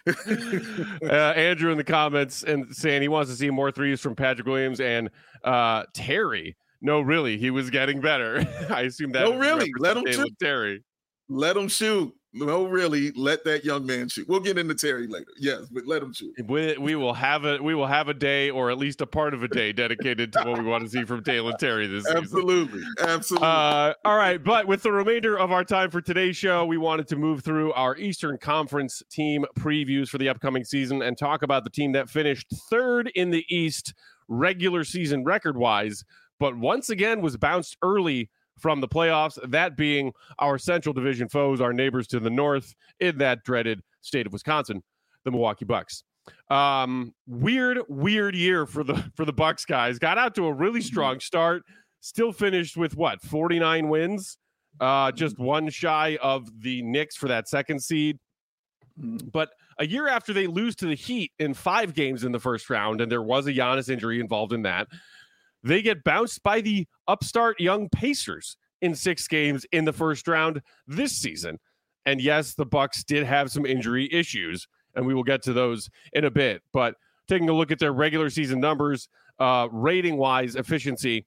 way. uh, Andrew in the comments and saying he wants to see more threes from Patrick Williams and uh, Terry. No, really, he was getting better. I assume that. No, really, let him shoot. Terry. Let him shoot. No, really, let that young man shoot. We'll get into Terry later. Yes, but let him shoot. We, we will have a we will have a day, or at least a part of a day, dedicated to what we want to see from Dalen Terry this season. Absolutely, absolutely. Uh, all right, but with the remainder of our time for today's show, we wanted to move through our Eastern Conference team previews for the upcoming season and talk about the team that finished third in the East regular season record-wise, but once again was bounced early from the playoffs, that being our Central Division foes, our neighbors to the north in that dreaded state of Wisconsin, the Milwaukee Bucks. Um, weird, weird year for the for the Bucks guys. Got out to a really strong start, still finished with what, forty-nine wins, uh, just one shy of the Knicks for that second seed. But a year after they lose to the Heat in five games in the first round, and there was a Giannis injury involved in that, they get bounced by the upstart young Pacers in six games in the first round this season. And yes, the Bucks did have some injury issues, and we will get to those in a bit. But taking a look at their regular season numbers, uh, rating-wise, efficiency.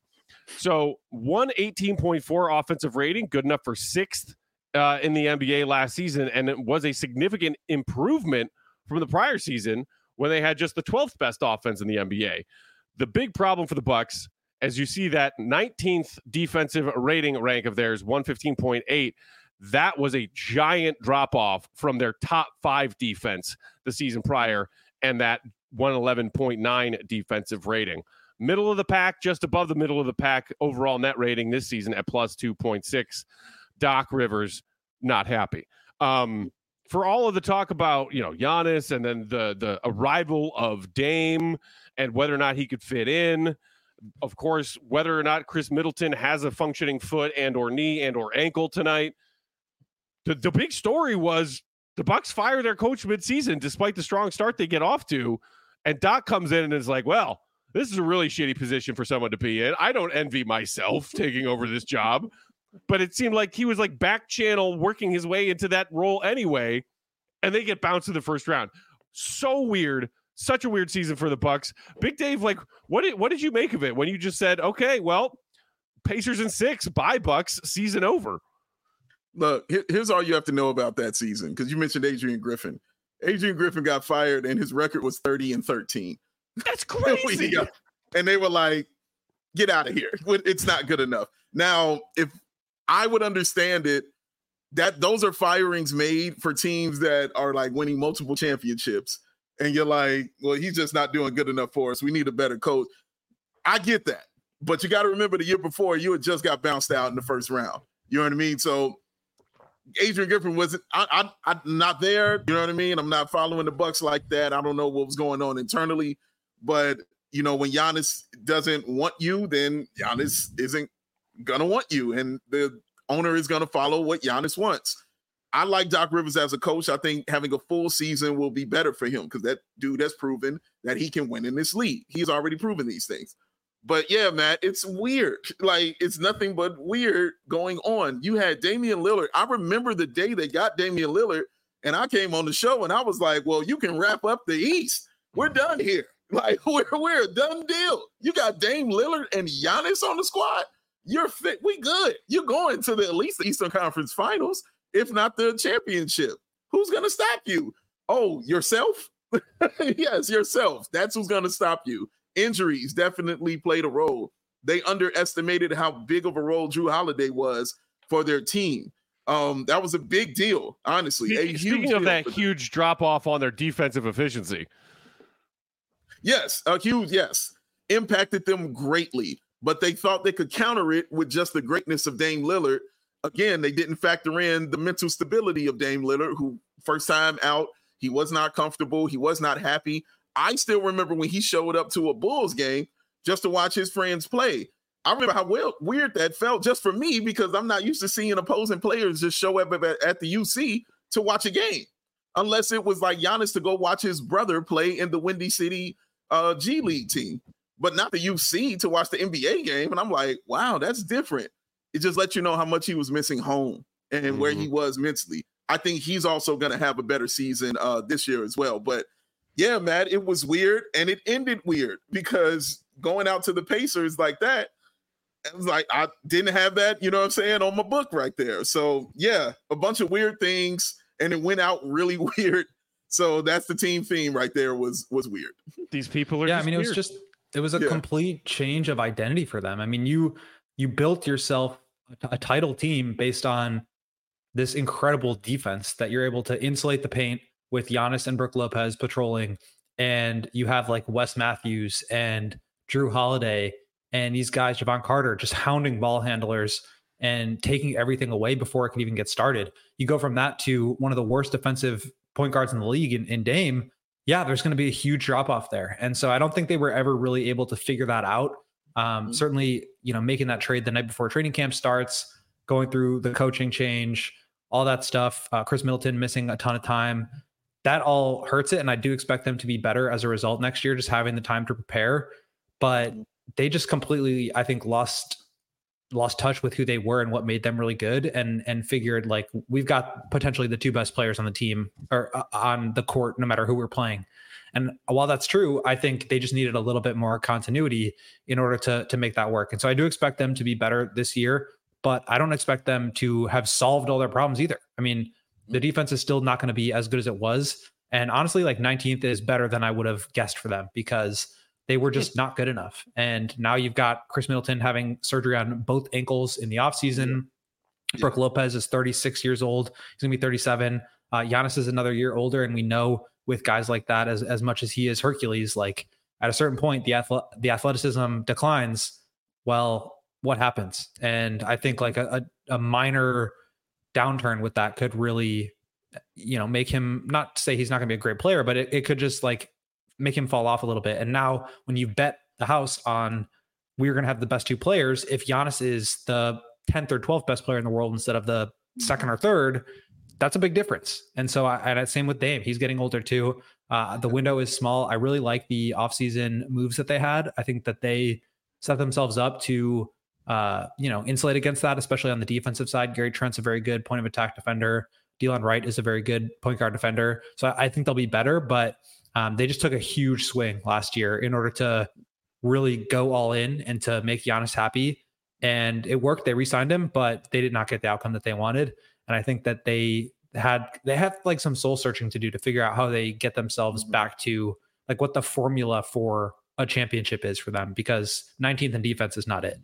So one eighteen point four offensive rating, good enough for sixth uh, in the N B A last season, and it was a significant improvement from the prior season when they had just the twelfth best offense in the N B A. The big problem for the Bucks, as you see that nineteenth defensive rating rank of theirs, one fifteen point eight, that was a giant drop-off from their top five defense the season prior, and that one eleven point nine defensive rating. Middle of the pack, just above the middle of the pack overall net rating this season at plus two point six. Doc Rivers, not happy. Um, for all of the talk about, you know, Giannis and then the the arrival of Dame and whether or not he could fit in, of course, whether or not Chris Middleton has a functioning foot and or knee and or ankle tonight. The, the big story was the Bucks fire their coach midseason despite the strong start they get off to, and Doc comes in and is like, well, this is a really shitty position for someone to be in. I don't envy myself taking over this job, but it seemed like he was like back channel working his way into that role anyway, and they get bounced in the first round. So weird. Such a weird season for the Bucks. Big Dave, like, what did what did you make of it when you just said, okay, well, Pacers in six, bye Bucks, season over? Look, here's all you have to know about that season, because you mentioned Adrian Griffin. Adrian Griffin got fired, and his record was thirty and thirteen. That's crazy. got, and they were like, get out of here. It's not good enough. Now, if I would understand it, that those are firings made for teams that are like winning multiple championships. And you're like, well, he's just not doing good enough for us. We need a better coach. I get that. But you got to remember the year before, you had just got bounced out in the first round. You know what I mean? So Adrian Griffin wasn't, I, I, I'm not there. You know what I mean? I'm not following the Bucks like that. I don't know what was going on internally. But, you know, when Giannis doesn't want you, then Giannis isn't going to want you. And the owner is going to follow what Giannis wants. I like Doc Rivers as a coach. I think having a full season will be better for him because that dude has proven that he can win in this league. He's already proven these things. But yeah, Matt, it's weird. Like, it's nothing but weird going on. You had Damian Lillard. I remember the day they got Damian Lillard, and I came on the show, and I was like, well, you can wrap up the East. We're done here. Like we're we're a done deal. You got Dame Lillard and Giannis on the squad. You're fit. We good. You're going to the at least the Eastern Conference Finals, if not the championship. Who's gonna stop you? Oh, yourself? Yes, yourself. That's who's gonna stop you. Injuries definitely played a role. They underestimated how big of a role Jrue Holiday was for their team. Um, that was a big deal, honestly. Speaking, speaking of that huge drop off on their defensive efficiency. Yes, a huge yes. Impacted them greatly, but they thought they could counter it with just the greatness of Dame Lillard. Again, they didn't factor in the mental stability of Dame Lillard, who first time out, he was not comfortable. He was not happy. I still remember when he showed up to a Bulls game just to watch his friends play. I remember how well, weird that felt just for me because I'm not used to seeing opposing players just show up at, at the U C to watch a game, unless it was like Giannis to go watch his brother play in the Windy City uh, G League team, but not the U C to watch the N B A game. And I'm like, wow, that's different. It just lets you know how much he was missing home and mm-hmm. where he was mentally. I think he's also going to have a better season uh, this year as well. But yeah, man, it was weird and it ended weird because going out to the Pacers like that, it was like I didn't have that, you know what I'm saying, on my book right there. So yeah, a bunch of weird things and it went out really weird. So that's the team theme right there was was weird. These people are yeah, just I mean, weird. it was just it was a yeah. complete change of identity for them. I mean, you you built yourself a title team based on this incredible defense that you're able to insulate the paint with Giannis and Brook Lopez patrolling. And you have like Wes Matthews and Jrue Holiday and these guys, Javon Carter, just hounding ball handlers and taking everything away before it can even get started. You go from that to one of the worst defensive point guards in the league in, in Dame. Yeah, there's going to be a huge drop off there. And so I don't think they were ever really able to figure that out. Um, mm-hmm. Certainly, you know, making that trade the night before training camp starts, going through the coaching change, all that stuff, uh, Chris Middleton missing a ton of time, that all hurts it. And I do expect them to be better as a result next year, just having the time to prepare. But they just completely, I think, lost lost touch with who they were and what made them really good, and and figured like we've got potentially the two best players on the team or uh, on the court, no matter who we're playing. And while that's true, I think they just needed a little bit more continuity in order to to make that work. And so I do expect them to be better this year, but I don't expect them to have solved all their problems either. I mean, the defense is still not going to be as good as it was. And honestly, like nineteenth is better than I would have guessed for them because they were just not good enough. And now you've got Chris Middleton having surgery on both ankles in the offseason. Yeah. Brook Lopez is thirty-six years old. He's going to be thirty-seven. Uh, Giannis is another year older. And we know with guys like that, as, as much as he is Hercules, like at a certain point, the athle- the athleticism declines. Well, what happens? And I think like a, a, a minor downturn with that could really, you know, make him, not say he's not going to be a great player, but it, it could just like make him fall off a little bit. And now when you bet the house on we're going to have the best two players, if Giannis is the tenth or twelfth best player in the world instead of the second or third, that's a big difference. And so I, and same with Dame, he's getting older too. Uh, the window is small. I really like the offseason moves that they had. I think that they set themselves up to, uh, you know, insulate against that, especially on the defensive side. Gary Trent's a very good point of attack defender. Delon Wright is a very good point guard defender. So I, I think they'll be better, but um, they just took a huge swing last year in order to really go all in and to make Giannis happy. And it worked. They re-signed him, but they did not get the outcome that they wanted. And I think that they had, they have like some soul searching to do to figure out how they get themselves back to like what the formula for a championship is for them, because nineteenth in defense is not it.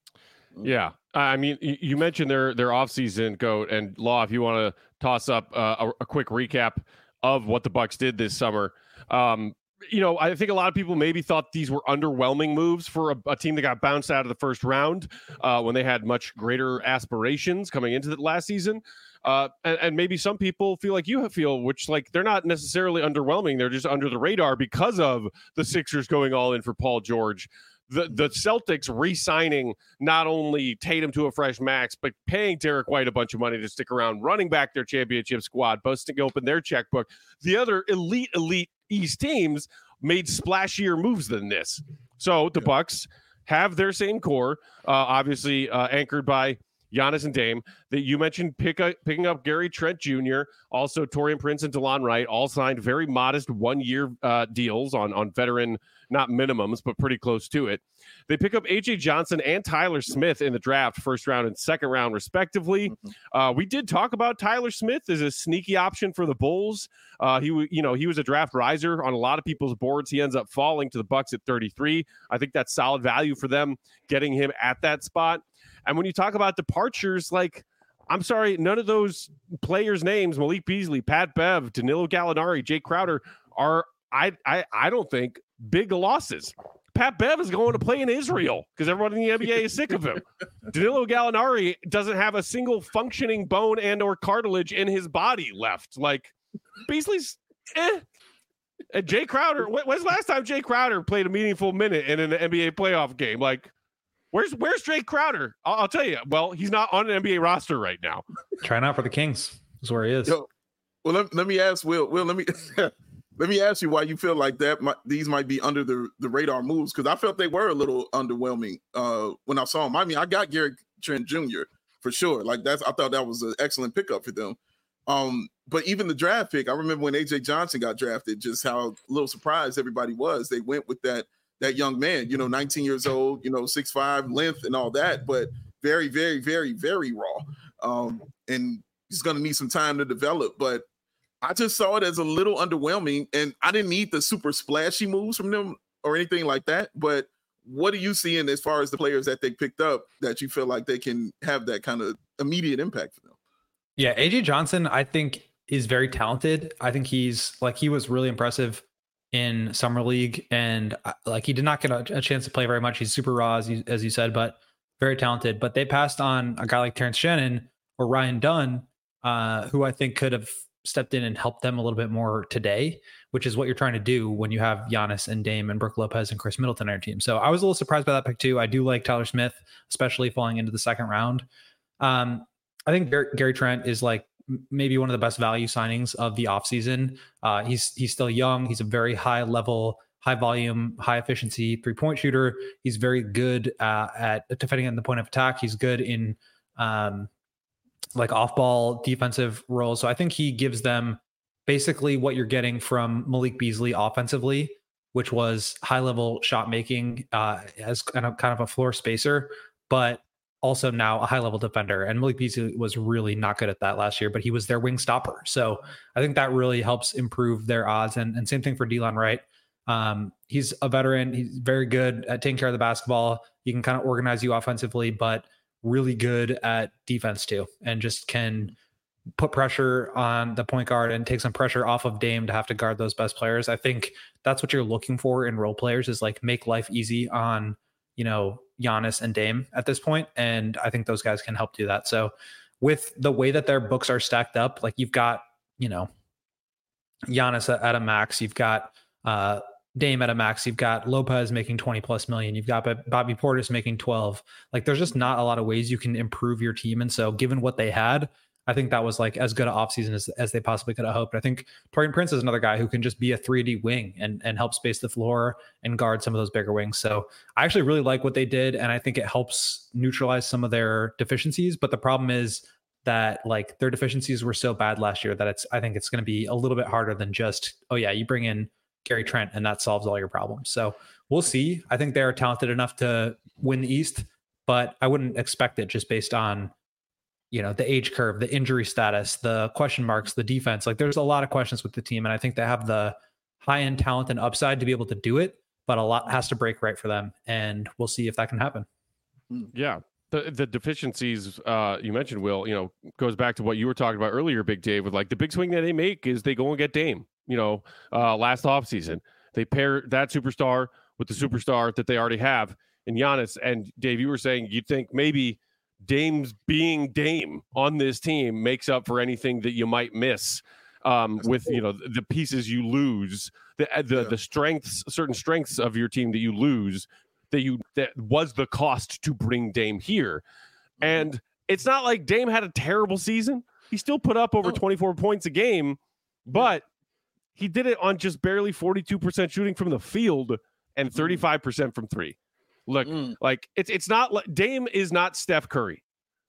Yeah. I mean, you mentioned their, their offseason, Goat, and Law, if you want to toss up uh, a, a quick recap of what the Bucks did this summer. Um, you know, I think a lot of people maybe thought these were underwhelming moves for a, a team that got bounced out of the first round uh, when they had much greater aspirations coming into the last season. Uh, and, and maybe some people feel like you feel, which like they're not necessarily underwhelming. They're just under the radar because of the Sixers going all in for Paul George. The the Celtics re-signing not only Tatum to a fresh max, but paying Derek White a bunch of money to stick around, running back their championship squad, busting open their checkbook. The other elite, elite East teams made splashier moves than this. So the yeah. Bucks have their same core, uh, obviously uh, anchored by Giannis and Dame. That you mentioned pick up, picking up Gary Trent Junior Also, Taurean Prince and DeLon Wright all signed very modest one-year uh, deals on, on veteran, not minimums, but pretty close to it. They pick up A J Johnson and Tyler Smith in the draft, first round and second round, respectively. Mm-hmm. Uh, we did talk about Tyler Smith as a sneaky option for the Bulls. Uh, he, you know, he was a draft riser on a lot of people's boards. He ends up falling to the Bucks at thirty-three. I think that's solid value for them, getting him at that spot. And when you talk about departures, like, I'm sorry, none of those players' names, Malik Beasley, Pat Bev, Danilo Gallinari, Jay Crowder, are, I, I, I don't think, big losses. Pat Bev is going to play in Israel because everyone in the N B A is sick of him. Danilo Gallinari doesn't have a single functioning bone and or cartilage in his body left. Like, Beasley's eh. And Jay Crowder, when's the last time Jay Crowder played a meaningful minute in an N B A playoff game? Like, where's where's Jay Crowder? I'll, I'll tell you. Well, he's not on an N B A roster right now. Trying out for the Kings is where he is. Yo, well, let, let me ask Will. Will, let me let me ask you why you feel like that. Might, these might be under the, the radar moves, because I felt they were a little underwhelming uh, when I saw them. I mean, I got Gary Trent Junior for sure. Like that's, I thought that was an excellent pickup for them. Um, but even the draft pick, I remember when A J Johnson got drafted, just how a little surprised everybody was. They went with that that young man, you know, nineteen years old, you know, six five, length and all that, but very, very, very, very raw. Um, and he's going to need some time to develop. But I just saw it as a little underwhelming, and I didn't need the super splashy moves from them or anything like that. But what are you seeing as far as the players that they picked up that you feel like they can have that kind of immediate impact for them? Yeah, A J Johnson, I think, is very talented. I think he's like, he was really impressive in summer league, and like he did not get a, a chance to play very much. He's super raw, as you, as you said, but very talented. But they passed on a guy like Terrence Shannon or Ryan Dunn, uh, who I think could have stepped in and helped them a little bit more today, which is what you're trying to do when you have Giannis and Dame and Brook Lopez and Chris Middleton on your team. So I was a little surprised by that pick too. I do like Tyler Smith, especially falling into the second round. Um, I think Gary, Gary Trent is like maybe one of the best value signings of the offseason. Uh, he's he's still young. He's a very high level, high volume, high efficiency three point shooter. He's very good uh, at defending at the point of attack. He's good in um, like off ball defensive roles. So I think he gives them basically what you're getting from Malik Beasley offensively, which was high level shot making uh, as kind of kind of a floor spacer, but also now a high level defender. And Malik Beasley was really not good at that last year, but he was their wing stopper. So I think that really helps improve their odds. And, and same thing for DeLon Wright. Um, he's a veteran. He's very good at taking care of the basketball. He can kind of organize you offensively, but really good at defense too, and just can put pressure on the point guard and take some pressure off of Dame to have to guard those best players. I think that's what you're looking for in role players, is like make life easy on, you know, Giannis and Dame at this point. And I think those guys can help do that. So with the way that their books are stacked up, like you've got, you know, Giannis at a max, you've got uh, Dame at a max, you've got Lopez making twenty plus million, you've got Bobby Portis making twelve. Like there's just not a lot of ways you can improve your team. And so given what they had, I think that was like as good an offseason as, as they possibly could have hoped. I think Taurean Prince is another guy who can just be a three D wing and, and help space the floor and guard some of those bigger wings. So I actually really like what they did, and I think it helps neutralize some of their deficiencies. But the problem is that like their deficiencies were so bad last year that it's, I think it's going to be a little bit harder than just, oh yeah, you bring in Gary Trent and that solves all your problems. So we'll see. I think they're talented enough to win the East, but I wouldn't expect it just based on, you know, the age curve, the injury status, the question marks, the defense. Like there's a lot of questions with the team. And I think they have the high end talent and upside to be able to do it, but a lot has to break right for them. And we'll see if that can happen. Yeah. The the deficiencies uh, you mentioned, Will, you know, goes back to what you were talking about earlier, Big Dave, with like the big swing that they make is they go and get Dame, you know, uh, last offseason. They pair that superstar with the superstar that they already have in Giannis. And Dave, you were saying you'd think maybe Dame's being Dame on this team makes up for anything that you might miss um, with, you know, the pieces you lose, the the, yeah. the strengths, certain strengths of your team that you lose, that you that was the cost to bring Dame here. Mm-hmm. And it's not like Dame had a terrible season. He still put up over oh. twenty-four points a game, but he did it on just barely forty-two percent shooting from the field and thirty-five percent from three. Look, mm. like it's it's not like Dame is not Steph Curry.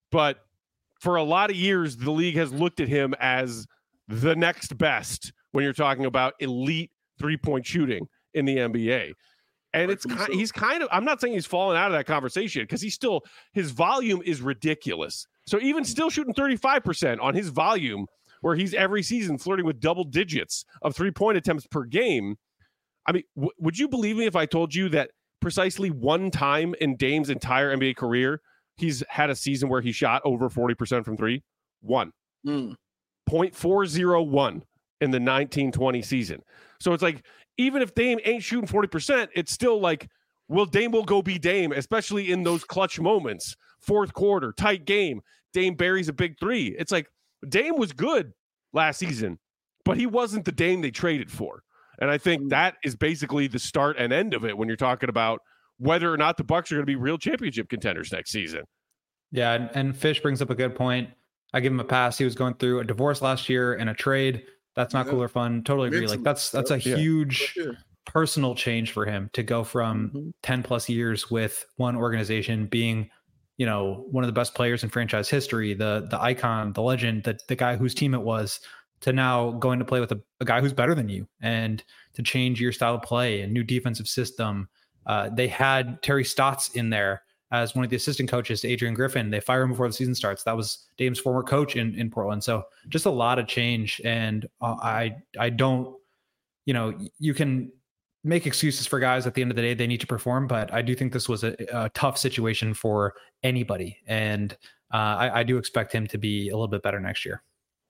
but for a lot of years, the league has looked at him as the next best when you're talking about elite three-point shooting in the N B A. And it's kind, he's kind of, I'm not saying he's fallen out of that conversation because he's still, his volume is ridiculous. So even still shooting thirty-five percent on his volume, where he's every season flirting with double digits of three-point attempts per game. I mean, w- would you believe me if I told you that precisely one time in Dame's entire N B A career, he's had a season where he shot over forty percent from three? One. Mm. zero point four oh one in the nineteen twenty season. So it's like, even if Dame ain't shooting forty percent, it's still like, well, Dame will go be Dame, especially in those clutch moments. Fourth quarter, tight game. Dame buries a big three. It's like, Dame was good last season, but he wasn't the Dame they traded for. And I think that is basically the start and end of it when you're talking about whether or not the Bucks are going to be real championship contenders next season. Yeah, and, and Fish brings up a good point. I give him a pass. He was going through a divorce last year and a trade. That's not yeah. cool or fun. Totally agree. Like that's that's a yeah. huge yeah. personal change for him to go from mm-hmm. ten plus years with one organization being, you know, one of the best players in franchise history, the the icon, the legend, the, the guy whose team it was, to now going to play with a, a guy who's better than you and to change your style of play and new defensive system. Uh, they had Terry Stotts in there as one of the assistant coaches to Adrian Griffin. They fire him before the season starts. That was Dame's former coach in, in Portland. So just a lot of change. And uh, I, I don't, you know, you can make excuses for guys at the end of the day. They need to perform, but I do think this was a, a tough situation for anybody. And uh, I, I do expect him to be a little bit better next year.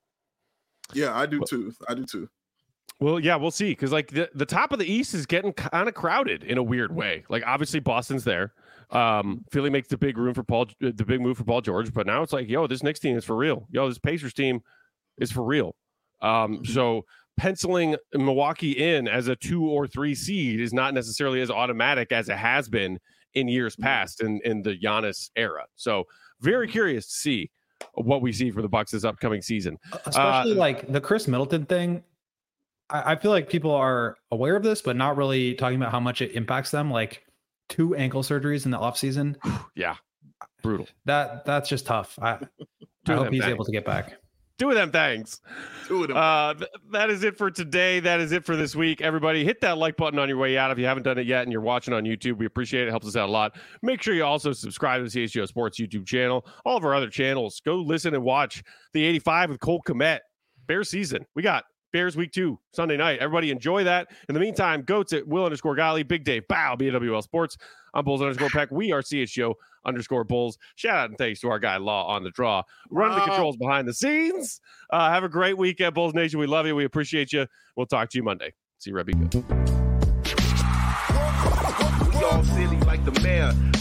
Yeah, I do too. I do too. Well, yeah, we'll see. Because like the, the top of the East is getting kind of crowded in a weird way. Like obviously Boston's there. Um, Philly makes the big room for Paul, the big move for Paul George. But now it's like, yo, this Knicks team is for real. Yo, this Pacers team is for real. Um, so penciling Milwaukee in as a two or three seed is not necessarily as automatic as it has been in years past in, in the Giannis era. So very curious to see what we see for the Bucks this upcoming season. Especially uh, like the Chris Middleton thing. I, I feel like people are aware of this, but not really talking about how much it impacts them. Like two ankle surgeries in the offseason. Yeah. Brutal. That that's just tough. I, I hope he's things. able to get back. Two of them things. Two of them. Uh, th- that is it for today. That is it for this week. Everybody, hit that like button on your way out if you haven't done it yet and you're watching on YouTube. We appreciate it. It helps us out a lot. Make sure you also subscribe to the C H G O Sports YouTube channel. All of our other channels. Go listen and watch the eighty-five with Cole Kmet. Bears season. We got Bears week two, Sunday night. Everybody enjoy that. In the meantime, goats at Will underscore Golly, Big Dave, Bow, B W L Sports. I'm Bulls underscore Peck. We are C H G O underscore Bulls. Shout out and thanks to our guy Law on the draw. Running the controls behind the scenes. Uh, have a great weekend, Bulls Nation. We love you. We appreciate you. We'll talk to you Monday. See you, Rebbe. We all silly like the mayor.